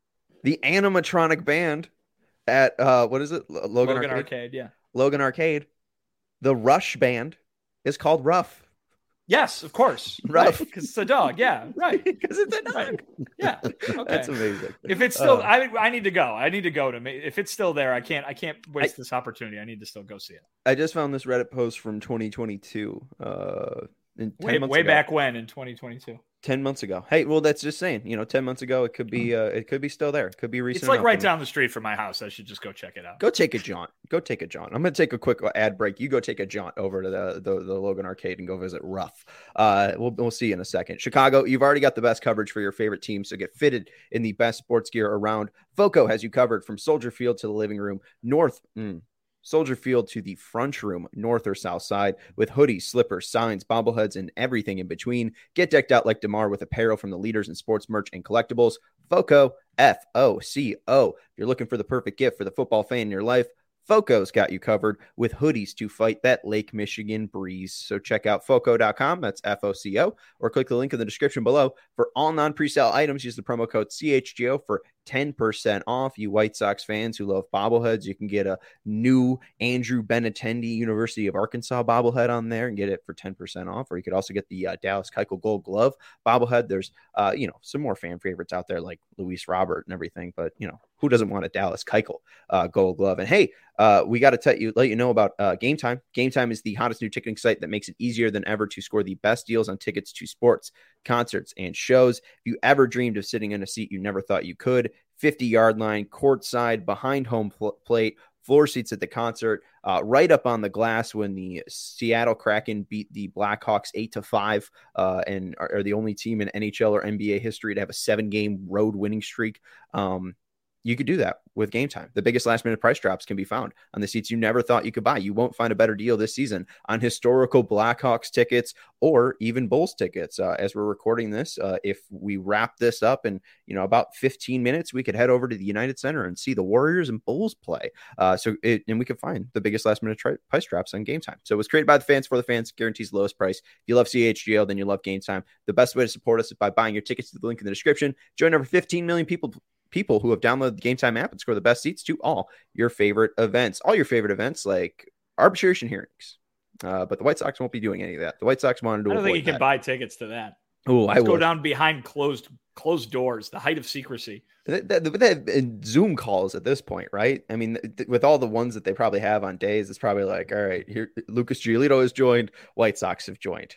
the animatronic band at, uh, what is it? Logan, Logan Arcade? Arcade, yeah. Logan Arcade. The Rush band is called Ruff. Yes, of course. Ruff. Because right. it's a dog. Yeah, right. Because it's a dog. Right. Yeah. Okay. That's amazing. If it's still, uh, I I need to go. I need to go to me. If it's still there, I can't. I can't waste I, this opportunity. I need to still go see it. I just found this Reddit post from twenty twenty-two. Uh, in way way ago. back when in twenty twenty-two. Ten months ago. Hey, well, that's just saying. You know, ten months ago, it could be. Uh, it could be still there. It could be recent. It's like enough. right down the street from my house. I should just go check it out. Go take a jaunt. Go take a jaunt. I'm going to take a quick ad break. You go take a jaunt over to the the, the Logan Arcade and go visit Ruff. Uh, we'll we'll see you in a second. Chicago, you've already got the best coverage for your favorite team, so get fitted in the best sports gear around. Foco has you covered from Soldier Field to the living room, north. Mm, Soldier Field to the front room, north or south side, with hoodies, slippers, signs, bobbleheads, and everything in between. Get decked out like DeMar with apparel from the leaders in sports merch and collectibles. Foco, F O C O. If you're looking for the perfect gift for the football fan in your life, Foco's got you covered with hoodies to fight that Lake Michigan breeze. So check out foco dot com, that's F O C O, or click the link in the description below. For all non-presale items, use the promo code C H G O for ten percent off. You White Sox fans who love bobbleheads, you can get a new Andrew Benintendi University of Arkansas bobblehead on there and get it for ten percent off. Or you could also get the uh, Dallas Keuchel Gold Glove bobblehead. There's, uh, you know, some more fan favorites out there like Luis Robert and everything, but, you know, who doesn't want a Dallas Keuchel uh, Gold Glove? And hey, uh, we got to tell you, let you know about uh, Game Time. Game Time is the hottest new ticketing site that makes it easier than ever to score the best deals on tickets to sports, concerts, and shows. If you ever dreamed of sitting in a seat you never thought you could, fifty-yard line, courtside, behind home pl- plate, floor seats at the concert, uh, right up on the glass when the Seattle Kraken beat the Blackhawks eight to five uh, and are, are the only team in N H L or N B A history to have a seven-game road winning streak. Um, You could do that with Game Time. The biggest last minute price drops can be found on the seats you never thought you could buy. You won't find a better deal this season on historical Blackhawks tickets or even Bulls tickets. Uh, as we're recording this, uh, if we wrap this up in, you know, about fifteen minutes, we could head over to the United Center and see the Warriors and Bulls play. Uh, so it, and we could find the biggest last minute tri- price drops on Game Time. So it was created by the fans for the fans, guarantees the lowest price. If you love C H G O, then you love Game Time. The best way to support us is by buying your tickets to the link in the description. Join over fifteen million people people who have downloaded the Game Time app and score the best seats to all your favorite events, all your favorite events like arbitration hearings. Uh, but the White Sox won't be doing any of that. The White Sox wanted to I don't think you that. can buy tickets to that. Oh, I go would. down behind closed closed doors, the height of secrecy. They, they, they have Zoom calls at this point, right? I mean, th- with all the ones that they probably have on days, it's probably like, all right, here Lucas Giolito has joined, White Sox have joined.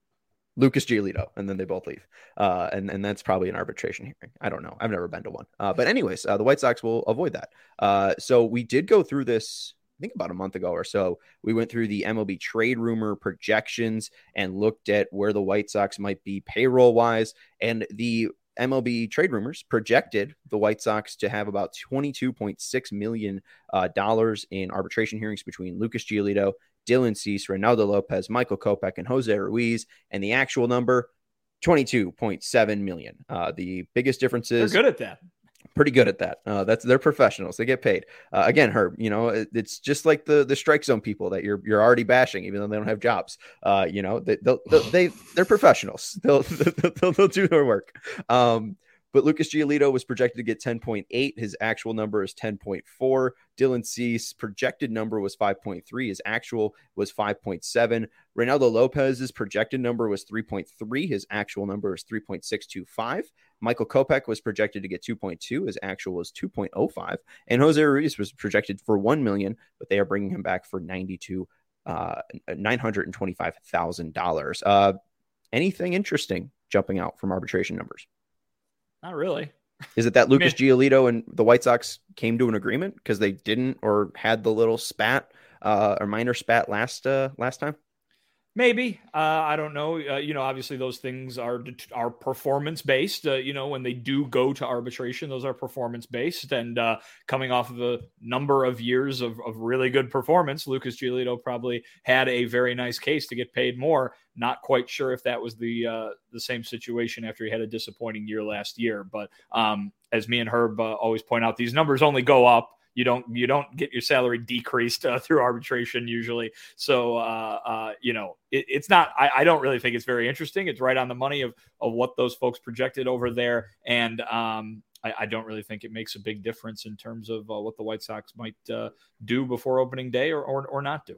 Lucas Giolito, and then they both leave. Uh, and, and that's probably an arbitration hearing. I don't know. I've never been to one. Uh, but anyways, uh, the White Sox will avoid that. Uh, so we did go through this, I think about a month ago or so. We went through the M L B trade rumor projections and looked at where the White Sox might be payroll-wise. And the M L B trade rumors projected the White Sox to have about twenty-two point six million dollars uh, in arbitration hearings between Lucas Giolito, Dylan Cease, Reynaldo Lopez, Michael Kopech, and Jose Ruiz. And the actual number, twenty-two point seven million. Uh, the biggest difference is they're good at that. Pretty good at that. Uh, that's they're professionals. They get paid. Uh, again, Herb, you know, it, it's just like the the strike zone people that you're you're already bashing, even though they don't have jobs. Uh, you know, they they'll, they'll, they they're professionals. They'll, they'll they'll do their work. Um, But Lucas Giolito was projected to get ten point eight. His actual number is ten point four. Dylan Cease projected number was five point three. His actual was five point seven. Reynaldo Lopez's projected number was three point three. His actual number is three point six two five. Michael Kopech was projected to get two point two. His actual was two point oh five. And Jose Ruiz was projected for one million dollars, but they are bringing him back for ninety-two, uh, nine hundred twenty-five thousand dollars. Uh, anything interesting jumping out from arbitration numbers? Not really. Is it that Lucas I mean, Giolito and the White Sox came to an agreement because they didn't or had the little spat uh, or minor spat last uh, last time? Maybe. Uh, I don't know. Uh, you know, obviously those things are are performance based. Uh, you know, when they do go to arbitration, those are performance based. And uh, coming off of a number of years of, of really good performance, Lucas Giolito probably had a very nice case to get paid more. Not quite sure if that was the uh, the same situation after he had a disappointing year last year. But um, as me and Herb uh, always point out, these numbers only go up. You don't you don't get your salary decreased uh, through arbitration usually. So, uh, uh, you know, it, it's not I, I don't really think it's very interesting. It's right on the money of, of what those folks projected over there. And um, I, I don't really think it makes a big difference in terms of uh, what the White Sox might uh, do before opening day or, or, or not do.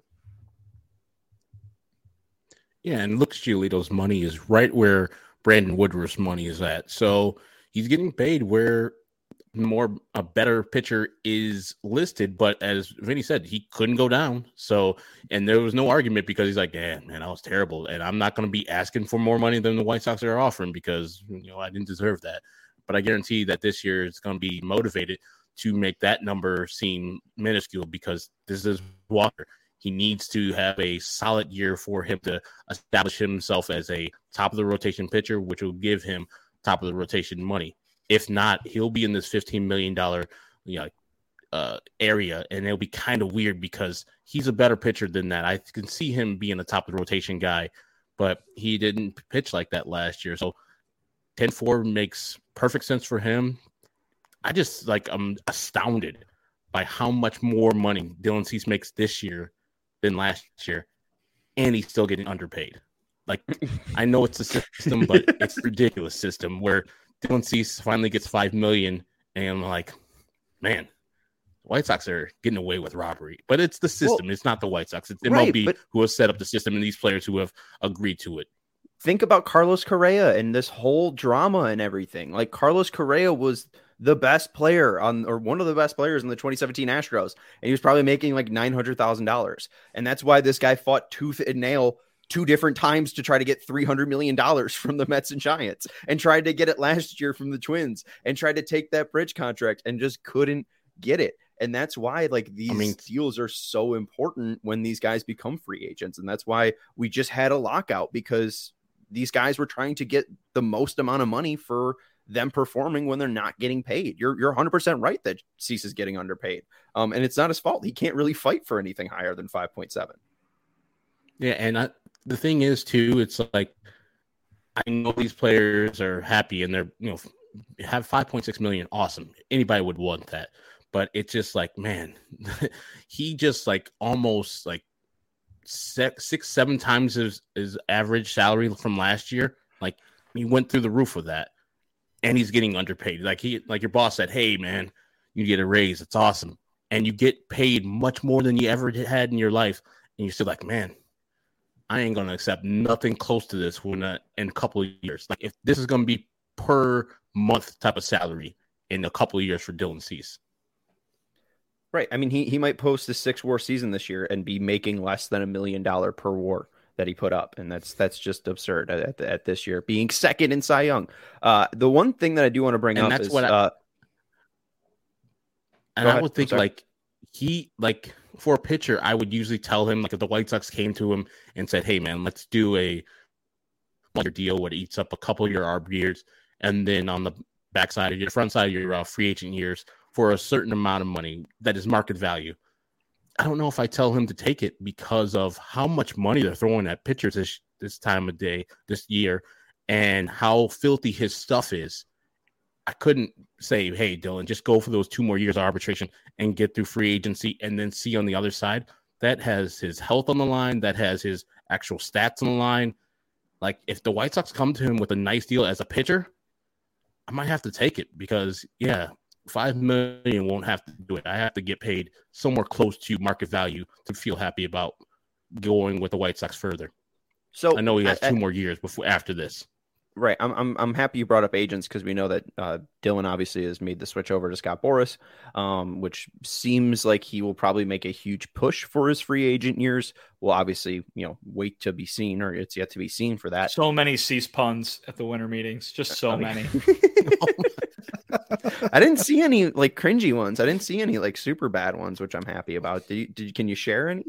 Yeah, and Lucas Giolito's money is right where Brandon Woodruff's money is at. So he's getting paid where more a better pitcher is listed, but as Vinny said, he couldn't go down. So, and there was no argument because he's like, yeah, man, I was terrible. And I'm not going to be asking for more money than the White Sox are offering because, you know, I didn't deserve that. But I guarantee that this year it's going to be motivated to make that number seem minuscule because this is Walker. He needs to have a solid year for him to establish himself as a top of the rotation pitcher, which will give him top of the rotation money. If not, he'll be in this fifteen million dollars you know, uh, area, and it'll be kind of weird because he's a better pitcher than that. I can see him being a top of the rotation guy, but he didn't pitch like that last year. So ten four makes perfect sense for him. I just, like, I'm astounded by how much more money Dylan Cease makes this year than last year, and he's still getting underpaid. Like, I know it's a system, but it's a ridiculous system where Dylan Cease finally gets five million dollars, and I'm like, man, the White Sox are getting away with robbery. But it's the system. Well, it's not the White Sox. It's M L B right, who has set up the system and these players who have agreed to it. Think about Carlos Correa and this whole drama and everything. Like, Carlos Correa was the best player on, or one of the best players in the twenty seventeen Astros, and he was probably making like nine hundred thousand dollars. And that's why this guy fought tooth and nail two different times to try to get three hundred million dollars from the Mets and Giants, and tried to get it last year from the Twins, and tried to take that bridge contract and just couldn't get it. And that's why, like, these I mean, deals are so important when these guys become free agents. And that's why we just had a lockout, because these guys were trying to get the most amount of money for them performing when they're not getting paid. You're you're one hundred percent right that Cease is getting underpaid. Um, and it's not his fault. He can't really fight for anything higher than five point seven. Yeah, and I, the thing is, too, it's like, I know these players are happy and they're, you know, have five point six million. Awesome. Anybody would want that. But it's just like, man, he just like almost like six, six seven times his, his average salary from last year. Like, he went through the roof with that, and he's getting underpaid. Like he, like your boss said, hey, man, you get a raise. It's awesome. And you get paid much more than you ever had in your life. And you're still like, man, I ain't going to accept nothing close to this when uh, in a couple of years. Like, if this is going to be per month type of salary in a couple of years for Dylan Cease. Right. I mean, he he might post a six war season this year and be making less than a million dollar per war that he put up. And that's that's just absurd at, at this year, being second in Cy Young. Uh, the one thing that I do want to bring and up that's is what I, uh, and I would think like he like for a pitcher, I would usually tell him, like, if the White Sox came to him and said, hey, man, let's do a deal where it eats up a couple of your A R B years, and then on the backside of your front side of your uh, free agent years for a certain amount of money that is market value. I don't know if I tell him to take it because of how much money they're throwing at pitchers this, this time of day, this year, and how filthy his stuff is. I couldn't say, hey, Dylan, just go for those two more years of arbitration and get through free agency and then see on the other side. That has his health on the line. That has his actual stats on the line. Like, if the White Sox come to him with a nice deal as a pitcher, I might have to take it because, yeah, five million won't have to do it. I have to get paid somewhere close to market value to feel happy about going with the White Sox further. So I know he has I, two I, more years before after this. Right. I'm I'm I'm happy you brought up agents because we know that uh, Dylan obviously has made the switch over to Scott Boras, um, which seems like he will probably make a huge push for his free agent years. We'll obviously, you know, wait to be seen, or it's yet to be seen for that. So many cease puns at the winter meetings, just so I mean, many. I didn't see any like cringy ones. I didn't see any like super bad ones, which I'm happy about. Did you, did you, can you share any?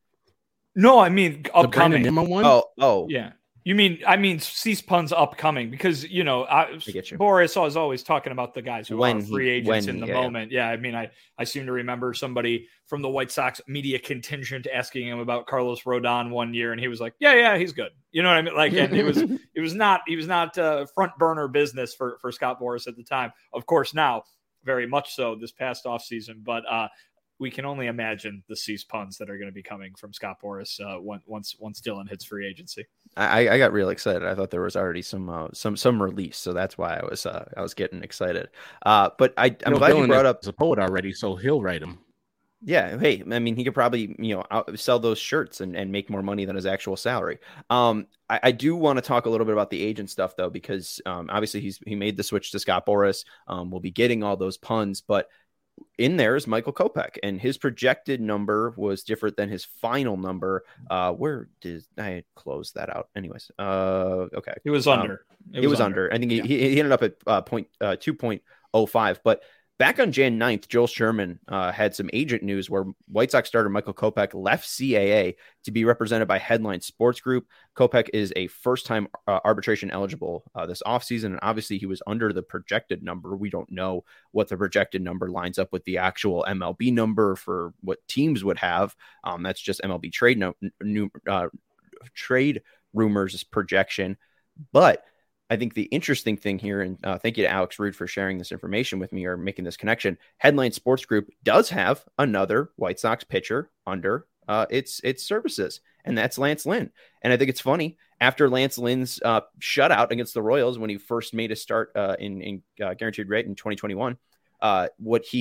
No, I mean upcoming. The one? Oh, oh, yeah. You mean, I mean, cease puns upcoming because, you know, I, I get you. Boras was always talking about the guys who when are free he, agents in the yeah, moment. Yeah. I mean, I, I seem to remember somebody from the White Sox media contingent asking him about Carlos Rodon one year. And he was like, yeah, yeah, he's good. You know what I mean? Like, and it was, it was not, he was not uh, front burner business for, for Scott Boras at the time. Of course, now very much so this past offseason, but uh, we can only imagine the cease puns that are going to be coming from Scott Boras uh, once, once Dylan hits free agency. I, I got real excited. I thought there was already some uh, some some release, so that's why I was uh, I was getting excited. Uh, but I, I'm no, glad Dylan you brought up the poet already, so he'll write them. Yeah, hey, I mean, he could probably you know out, sell those shirts and, and make more money than his actual salary. Um, I, I do want to talk a little bit about the agent stuff though, because um, obviously he's he made the switch to Scott Boras. Um, we'll be getting all those puns, but in there is Michael Kopech, and his projected number was different than his final number. Uh, where did I close that out? Anyways, uh, okay, it was under. Um, it, was it was under. under. I think he, yeah. he he ended up at uh, point uh, two point oh five, but. Back on January ninth, Joel Sherman uh, had some agent news where White Sox starter Michael Kopech left C A A to be represented by Headline Sports Group. Kopech is a first-time uh, arbitration eligible uh, this offseason, and obviously he was under the projected number. We don't know what the projected number lines up with the actual M L B number for what teams would have. Um, that's just M L B trade no, new uh, trade rumors projection, but I think the interesting thing here, and uh, thank you to Alex Rude for sharing this information with me or making this connection. Headline Sports Group does have another White Sox pitcher under uh, its its services, and that's Lance Lynn. And I think it's funny after Lance Lynn's uh, shutout against the Royals when he first made a start uh, in in uh, guaranteed rate in twenty twenty-one. Uh, what he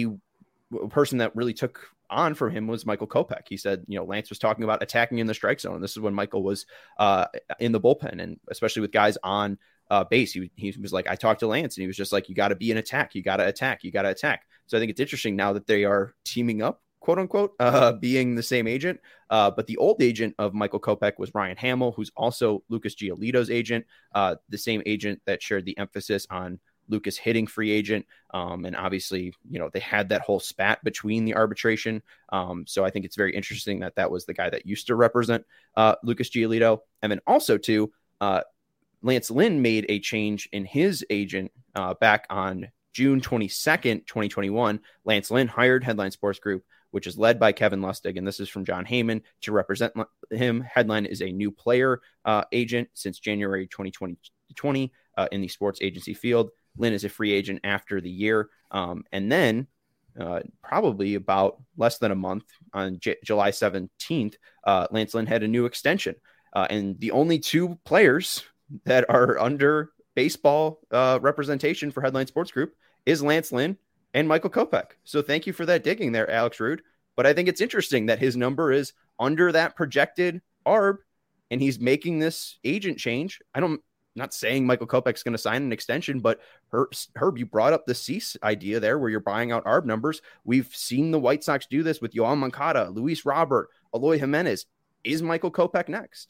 a person that really took on from him was Michael Kopech. He said, you know, Lance was talking about attacking in the strike zone. This is when Michael was uh, in the bullpen, and especially with guys on. Uh, base. He, he was like, I talked to Lance and he was just like, you got to be an attack. You got to attack. You got to attack. So I think it's interesting now that they are teaming up, quote unquote, uh, being the same agent. Uh, but the old agent of Michael Kopech was Ryan Hamill, who's also Lucas Giolito's agent, uh, the same agent that shared the emphasis on Lucas hitting free agent. Um, and obviously, you know, they had that whole spat between the arbitration. Um, so I think it's very interesting that that was the guy that used to represent uh, Lucas Giolito. And then also too, uh, Lance Lynn made a change in his agent uh, back on June twenty-second, twenty twenty-one. Lance Lynn hired Headline Sports Group, which is led by Kevin Lustig. And this is from John Heyman to represent him. Headline is a new player uh, agent since January twenty twenty uh, in the sports agency field. Lynn is a free agent after the year. Um, and then uh, probably about less than a month on J- July seventeenth, uh, Lance Lynn had a new extension. Uh, and the only two players that are under baseball uh, representation for Headline Sports Group is Lance Lynn and Michael Kopech. So thank you for that digging there, Alex Rude. But I think it's interesting that his number is under that projected A R B, and he's making this agent change. I don't, I'm not saying Michael Kopech's going to sign an extension, but Herb, Herb, you brought up the cease idea there where you're buying out A R B numbers. We've seen the White Sox do this with Yoan Moncada, Luis Robert, Eloy Jimenez. Is Michael Kopech next?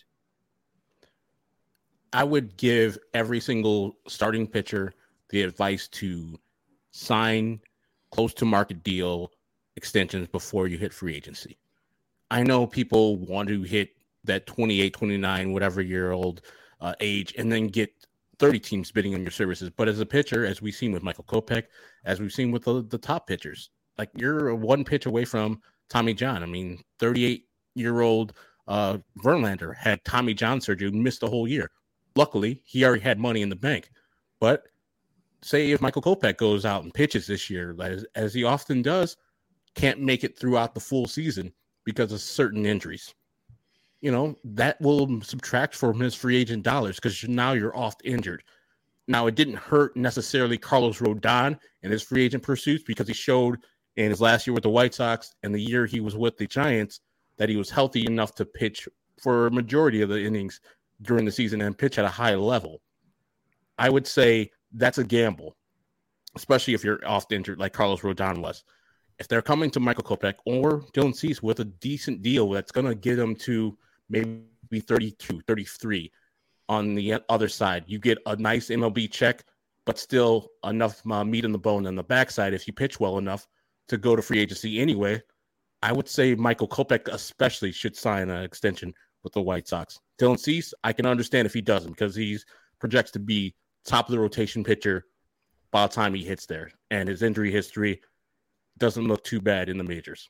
I would give every single starting pitcher the advice to sign close to market deal extensions before you hit free agency. I know people want to hit that twenty-eight, twenty-nine, whatever year old uh, age and then get thirty teams bidding on your services. But as a pitcher, as we've seen with Michael Kopech, as we've seen with the, the top pitchers, like you're one pitch away from Tommy John. I mean, thirty-eight-year-old uh, Verlander had Tommy John surgery and missed the whole year. Luckily, he already had money in the bank. But say if Michael Kopech goes out and pitches this year, as, as he often does, can't make it throughout the full season because of certain injuries. You know, that will subtract from his free agent dollars because now you're oft injured. Now, it didn't hurt necessarily Carlos Rodon in his free agent pursuits because he showed in his last year with the White Sox and the year he was with the Giants that he was healthy enough to pitch for a majority of the innings during the season and pitch at a high level. I would say that's a gamble, especially if you're oft injured like Carlos Rodon was. If they're coming to Michael Kopech or Dylan Cease with a decent deal that's going to get them to maybe thirty-two, thirty-three on the other side, you get a nice M L B check, but still enough uh, meat on the bone on the backside if you pitch well enough to go to free agency anyway. I would say Michael Kopech especially should sign an extension with the White Sox. Dylan Cease, I can understand if he doesn't because he projects to be top of the rotation pitcher by the time he hits there. And his injury history doesn't look too bad in the majors.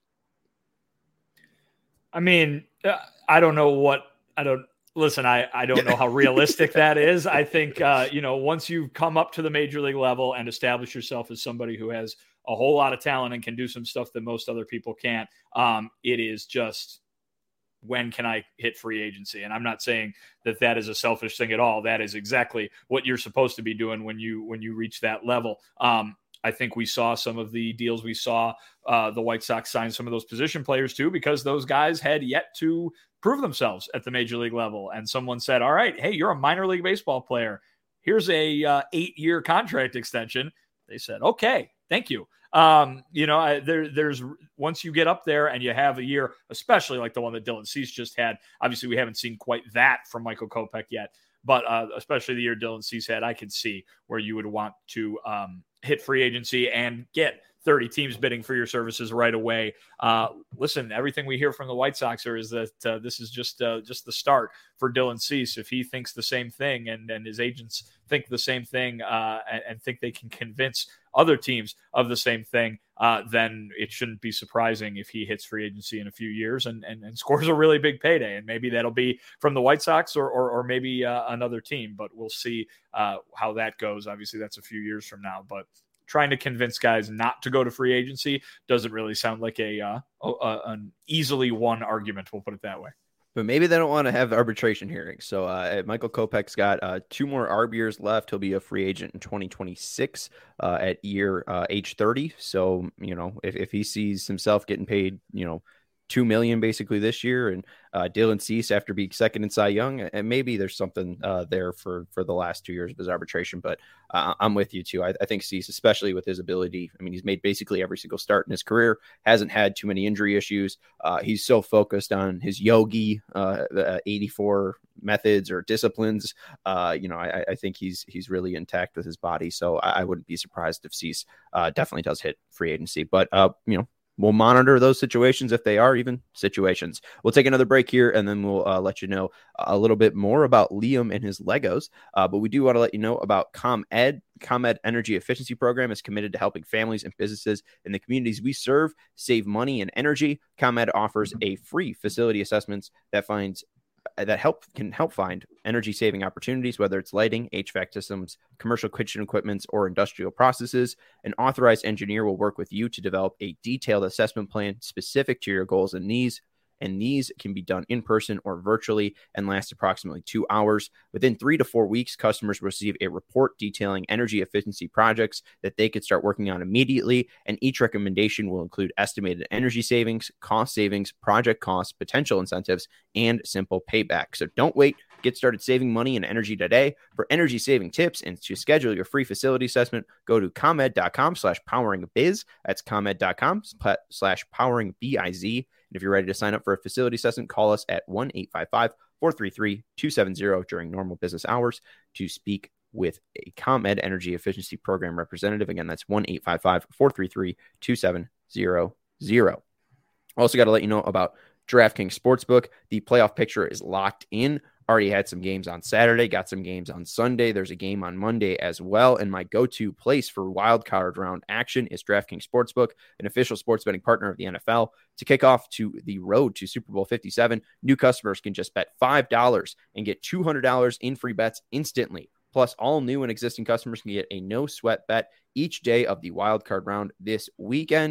I mean, I don't know what I don't listen. I, I don't know how realistic that is. I think, uh, you know, once you come up to the major league level and establish yourself as somebody who has a whole lot of talent and can do some stuff that most other people can't, um, it is just, when can I hit free agency? And I'm not saying that that is a selfish thing at all. That is exactly what you're supposed to be doing when you, when you reach that level. Um, I think we saw some of the deals we saw uh, the White Sox sign some of those position players too, because those guys had yet to prove themselves at the major league level. And someone said, all right, hey, you're a minor league baseball player. Here's a uh, eight year contract extension. They said, okay, thank you. Um, you know, I, there, there's once you get up there and you have a year, especially like the one that Dylan Cease just had. Obviously, we haven't seen quite that from Michael Kopech yet, but uh, especially the year Dylan Cease had, I could see where you would want to um, hit free agency and get thirty teams bidding for your services right away. Uh, listen, everything we hear from the White Sox are is that uh, this is just uh, just the start for Dylan Cease. If he thinks the same thing and, and his agents think the same thing uh, and, and think they can convince other teams of the same thing, uh, then it shouldn't be surprising if he hits free agency in a few years and, and, and scores a really big payday. And maybe that'll be from the White Sox or or, or maybe uh, another team, but we'll see uh, how that goes. Obviously, that's a few years from now, but trying to convince guys not to go to free agency doesn't really sound like a, uh, a an easily won argument. We'll put it that way. But maybe they don't want to have arbitration hearings. So uh, Michael Kopech's got uh, two more arb years left. He'll be a free agent in twenty twenty-six uh, at year uh, age thirty. So, you know, if, if he sees himself getting paid, you know, two million dollars basically this year, and uh, Dylan Cease after being second in Cy Young, and maybe there's something uh, there for for the last two years of his arbitration. But uh, I'm with you too. I, I think Cease, especially with his ability, I mean, he's made basically every single start in his career, hasn't had too many injury issues. Uh, he's so focused on his yogi uh, uh, eighty-four methods or disciplines. Uh, you know, I, I think he's he's really intact with his body. So I, I wouldn't be surprised if Cease uh, definitely does hit free agency. But uh, you know. We'll monitor those situations if they are even situations. We'll take another break here, and then we'll uh, let you know a little bit more about Liam and his Legos. Uh, but we do want to let you know about ComEd. ComEd Energy Efficiency Program is committed to helping families and businesses in the communities we serve save money and energy. ComEd offers a free facility assessments that finds that help can help find energy saving opportunities, whether it's lighting, H V A C systems, commercial kitchen equipments, or industrial processes. An authorized engineer will work with you to develop a detailed assessment plan specific to your goals and needs. And these can be done in person or virtually and last approximately two hours. Within three to four weeks, customers receive a report detailing energy efficiency projects that they could start working on immediately. And each recommendation will include estimated energy savings, cost savings, project costs, potential incentives, and simple payback. So don't wait. Get started saving money and energy today. For energy saving tips and to schedule your free facility assessment, go to ComEd.com slash powering biz. That's ComEd.com slash powering B-I-Z. And if you're ready to sign up for a facility assessment, call us at one eight five five, four three three, two seven zero during normal business hours to speak with a ComEd Energy Efficiency Program representative. Again, that's one eight five five, four three three, two seven zero zero. Also got to let you know about DraftKings Sportsbook. The playoff picture is locked in. Already had some games on Saturday, got some games on Sunday. There's a game on Monday as well. And my go-to place for wild card round action is DraftKings Sportsbook, an official sports betting partner of the N F L. To kick off to the road to Super Bowl fifty-seven, new customers can just bet five dollars and get two hundred dollars in free bets instantly. Plus, all new and existing customers can get a no-sweat bet each day of the wild card round this weekend.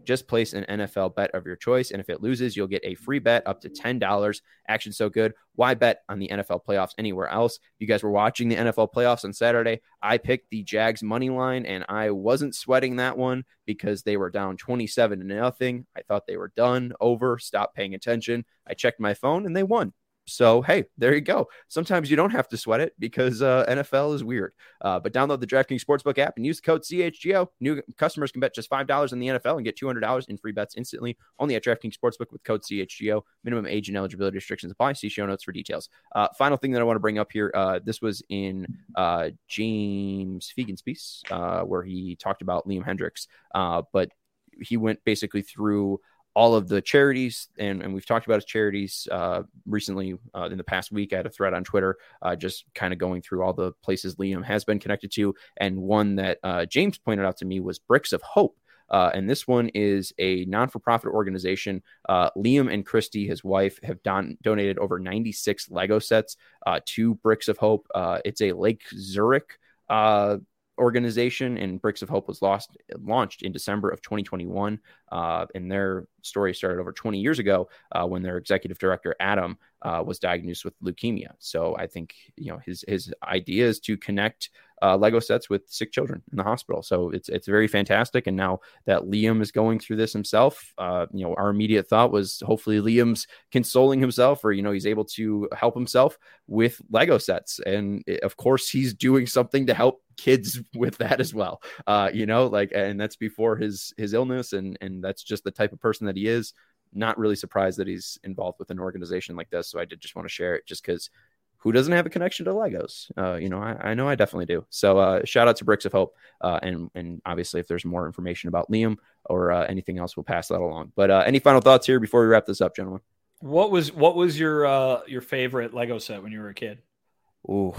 just place an N F L bet of your choice. And if it loses, you'll get a free bet up to ten dollars. Action so good. Why bet on the N F L playoffs anywhere else? You guys were watching the N F L playoffs on Saturday. I picked the Jags money line, and I wasn't sweating that one because they were down twenty-seven to nothing. I thought they were done, over, stopped paying attention. I checked my phone, and they won. So, hey, there you go. Sometimes you don't have to sweat it because uh, N F L is weird. Uh, but download the DraftKings Sportsbook app and use the code C H G O. New customers can bet just five dollars in the N F L and get two hundred dollars in free bets instantly. Only at DraftKings Sportsbook with code C H G O. Minimum age and eligibility restrictions apply. See show notes for details. Uh, final thing that I want to bring up here. Uh, this was in uh, James Fegan's piece uh, where he talked about Liam Hendriks. Uh, but he went basically through all of the charities, and, and we've talked about his charities uh, recently uh, in the past week. I had a thread on Twitter uh, just kind of going through all the places Liam has been connected to. And one that uh, James pointed out to me was Bricks of Hope. Uh, and this one is a non-for-profit organization. Uh, Liam and Christy, his wife, have don- donated over ninety-six Lego sets uh, to Bricks of Hope. Uh, it's a Lake Zurich uh, organization, and Bricks of Hope was lost, launched in December of twenty twenty-one. Uh, and their story started over twenty years ago uh, when their executive director, Adam, uh, was diagnosed with leukemia. So I think, you know, his his idea is to connect uh, Lego sets with sick children in the hospital. So it's it's very fantastic. And now that Liam is going through this himself, uh, you know, our immediate thought was hopefully Liam's consoling himself, or, you know, he's able to help himself with Lego sets. And it, of course, he's doing something to help kids with that as well. Uh, you know, like, and that's before his his illness, and and that's just the type of person that he is. Not really surprised that he's involved with an organization like this. So I did just want to share it, just because who doesn't have a connection to Legos? Uh, you know, I, I know I definitely do. So uh, shout out to Bricks of Hope. Uh, and, and obviously, if there's more information about Liam or uh, anything else, we'll pass that along. But uh, any final thoughts here before we wrap this up, gentlemen? What was what was your uh, your favorite Lego set when you were a kid? Ooh,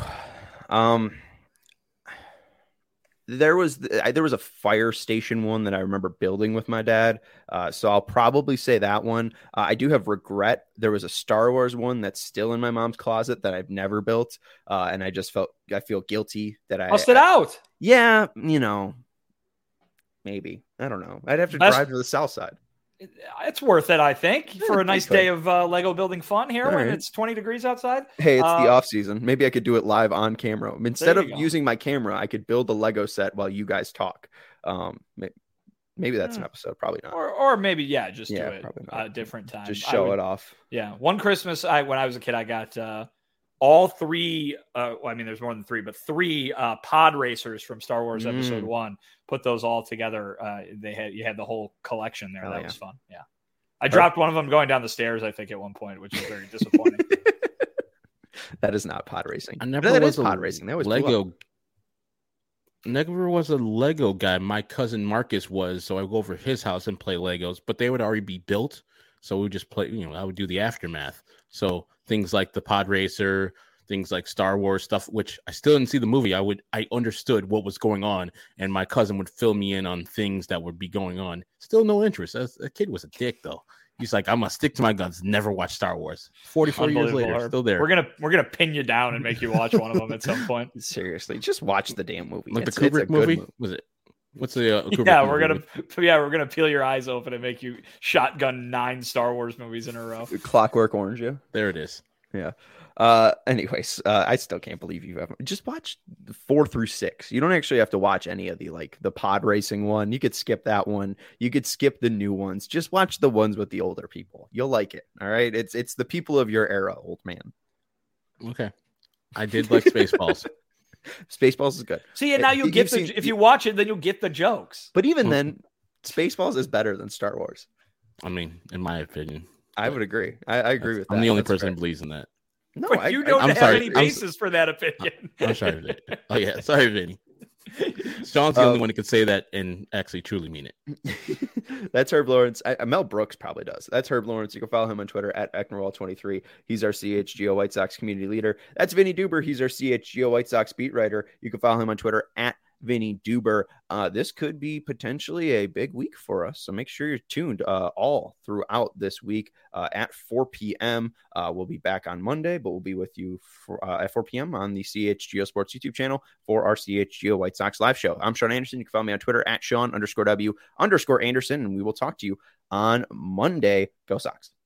um, there was there was a fire station one that I remember building with my dad. Uh, so I'll probably say that one. Uh, I do have regret. There was a Star Wars one that's still in my mom's closet that I've never built. Uh, and I just felt, I feel guilty that I bust it out. Yeah. You know, maybe, I don't know. I'd have to that's, drive to the south side. It's worth it, I think, yeah, for a nice day of uh, Lego building fun here. All when right. It's twenty degrees outside. Hey, it's uh, the off season. Maybe I could do it live on camera. Instead of go. using my camera, I could build a Lego set while you guys talk. Um, maybe that's yeah. an episode. Probably not. Or, or maybe, yeah, just yeah, do it a different time. Just show would, it off. Yeah. One Christmas, I when I was a kid, I got uh, all three. Uh, well, I mean, there's more than three, but three uh, pod racers from Star Wars mm. Episode One. Put those all together. Uh, they had you had the whole collection there. Oh, that yeah. was fun. Yeah. I dropped one of them going down the stairs, I think, at one point, which was very disappointing. That is not pod racing. I never that was is pod racing. That was Lego. Never was a Lego guy. My cousin Marcus was, so I would go over to his house and play Legos, but they would already be built. So we would just play, you know, I would do the aftermath. So things like the pod racer, things like Star Wars stuff, which I still didn't see the movie. I would, I understood what was going on, and my cousin would fill me in on things that would be going on. Still no interest. As a kid was a dick though. He's like, I'm gonna stick to my guns. Never watch Star Wars. forty-four years later, still there. We're gonna we're gonna pin you down and make you watch one of them at some point. Seriously, just watch the damn movie. Like it's, the Kubrick movie? movie was it? What's the uh, Kubrick yeah? We're movie? gonna yeah we're gonna peel your eyes open and make you shotgun nine Star Wars movies in a row. Clockwork Orange, yeah. There it is. Yeah. Uh, anyways, uh, I still can't believe you have just watch four through six. You don't actually have to watch any of the like the pod racing one. You could skip that one. You could skip the new ones. Just watch the ones with the older people. You'll like it. All right. It's it's the people of your era, old man. Okay. I did like Spaceballs. Spaceballs is good. See, and now you get the seen, if you watch it, then you'll get the jokes. But even then, Spaceballs is better than Star Wars. I mean, in my opinion. I would agree. I, I agree with that. I'm the only That's person fair. who believes in that. No, but I, you don't I, I'm have sorry. any basis I'm, for that opinion. I'm sorry, Vinny. Oh yeah, sorry, Vinny. Sean's the um, only one who could say that and actually truly mean it. That's Herb Lawrence. I, Mel Brooks probably does. That's Herb Lawrence. You can follow him on Twitter at Ecknerwall twenty-three. He's our C H G O White Sox community leader. That's Vinny Duber. He's our C H G O White Sox beat writer. You can follow him on Twitter at Vinny Duber. Uh, this could be potentially a big week for us, so make sure you're tuned uh, all throughout this week uh, at four p.m. Uh, we'll be back on Monday, but we'll be with you for, uh, at four p.m. on the C H G O Sports YouTube channel for our C H G O White Sox live show. I'm Sean Anderson. You can follow me on Twitter at Sean underscore W underscore Anderson, and we will talk to you on Monday. Go Sox.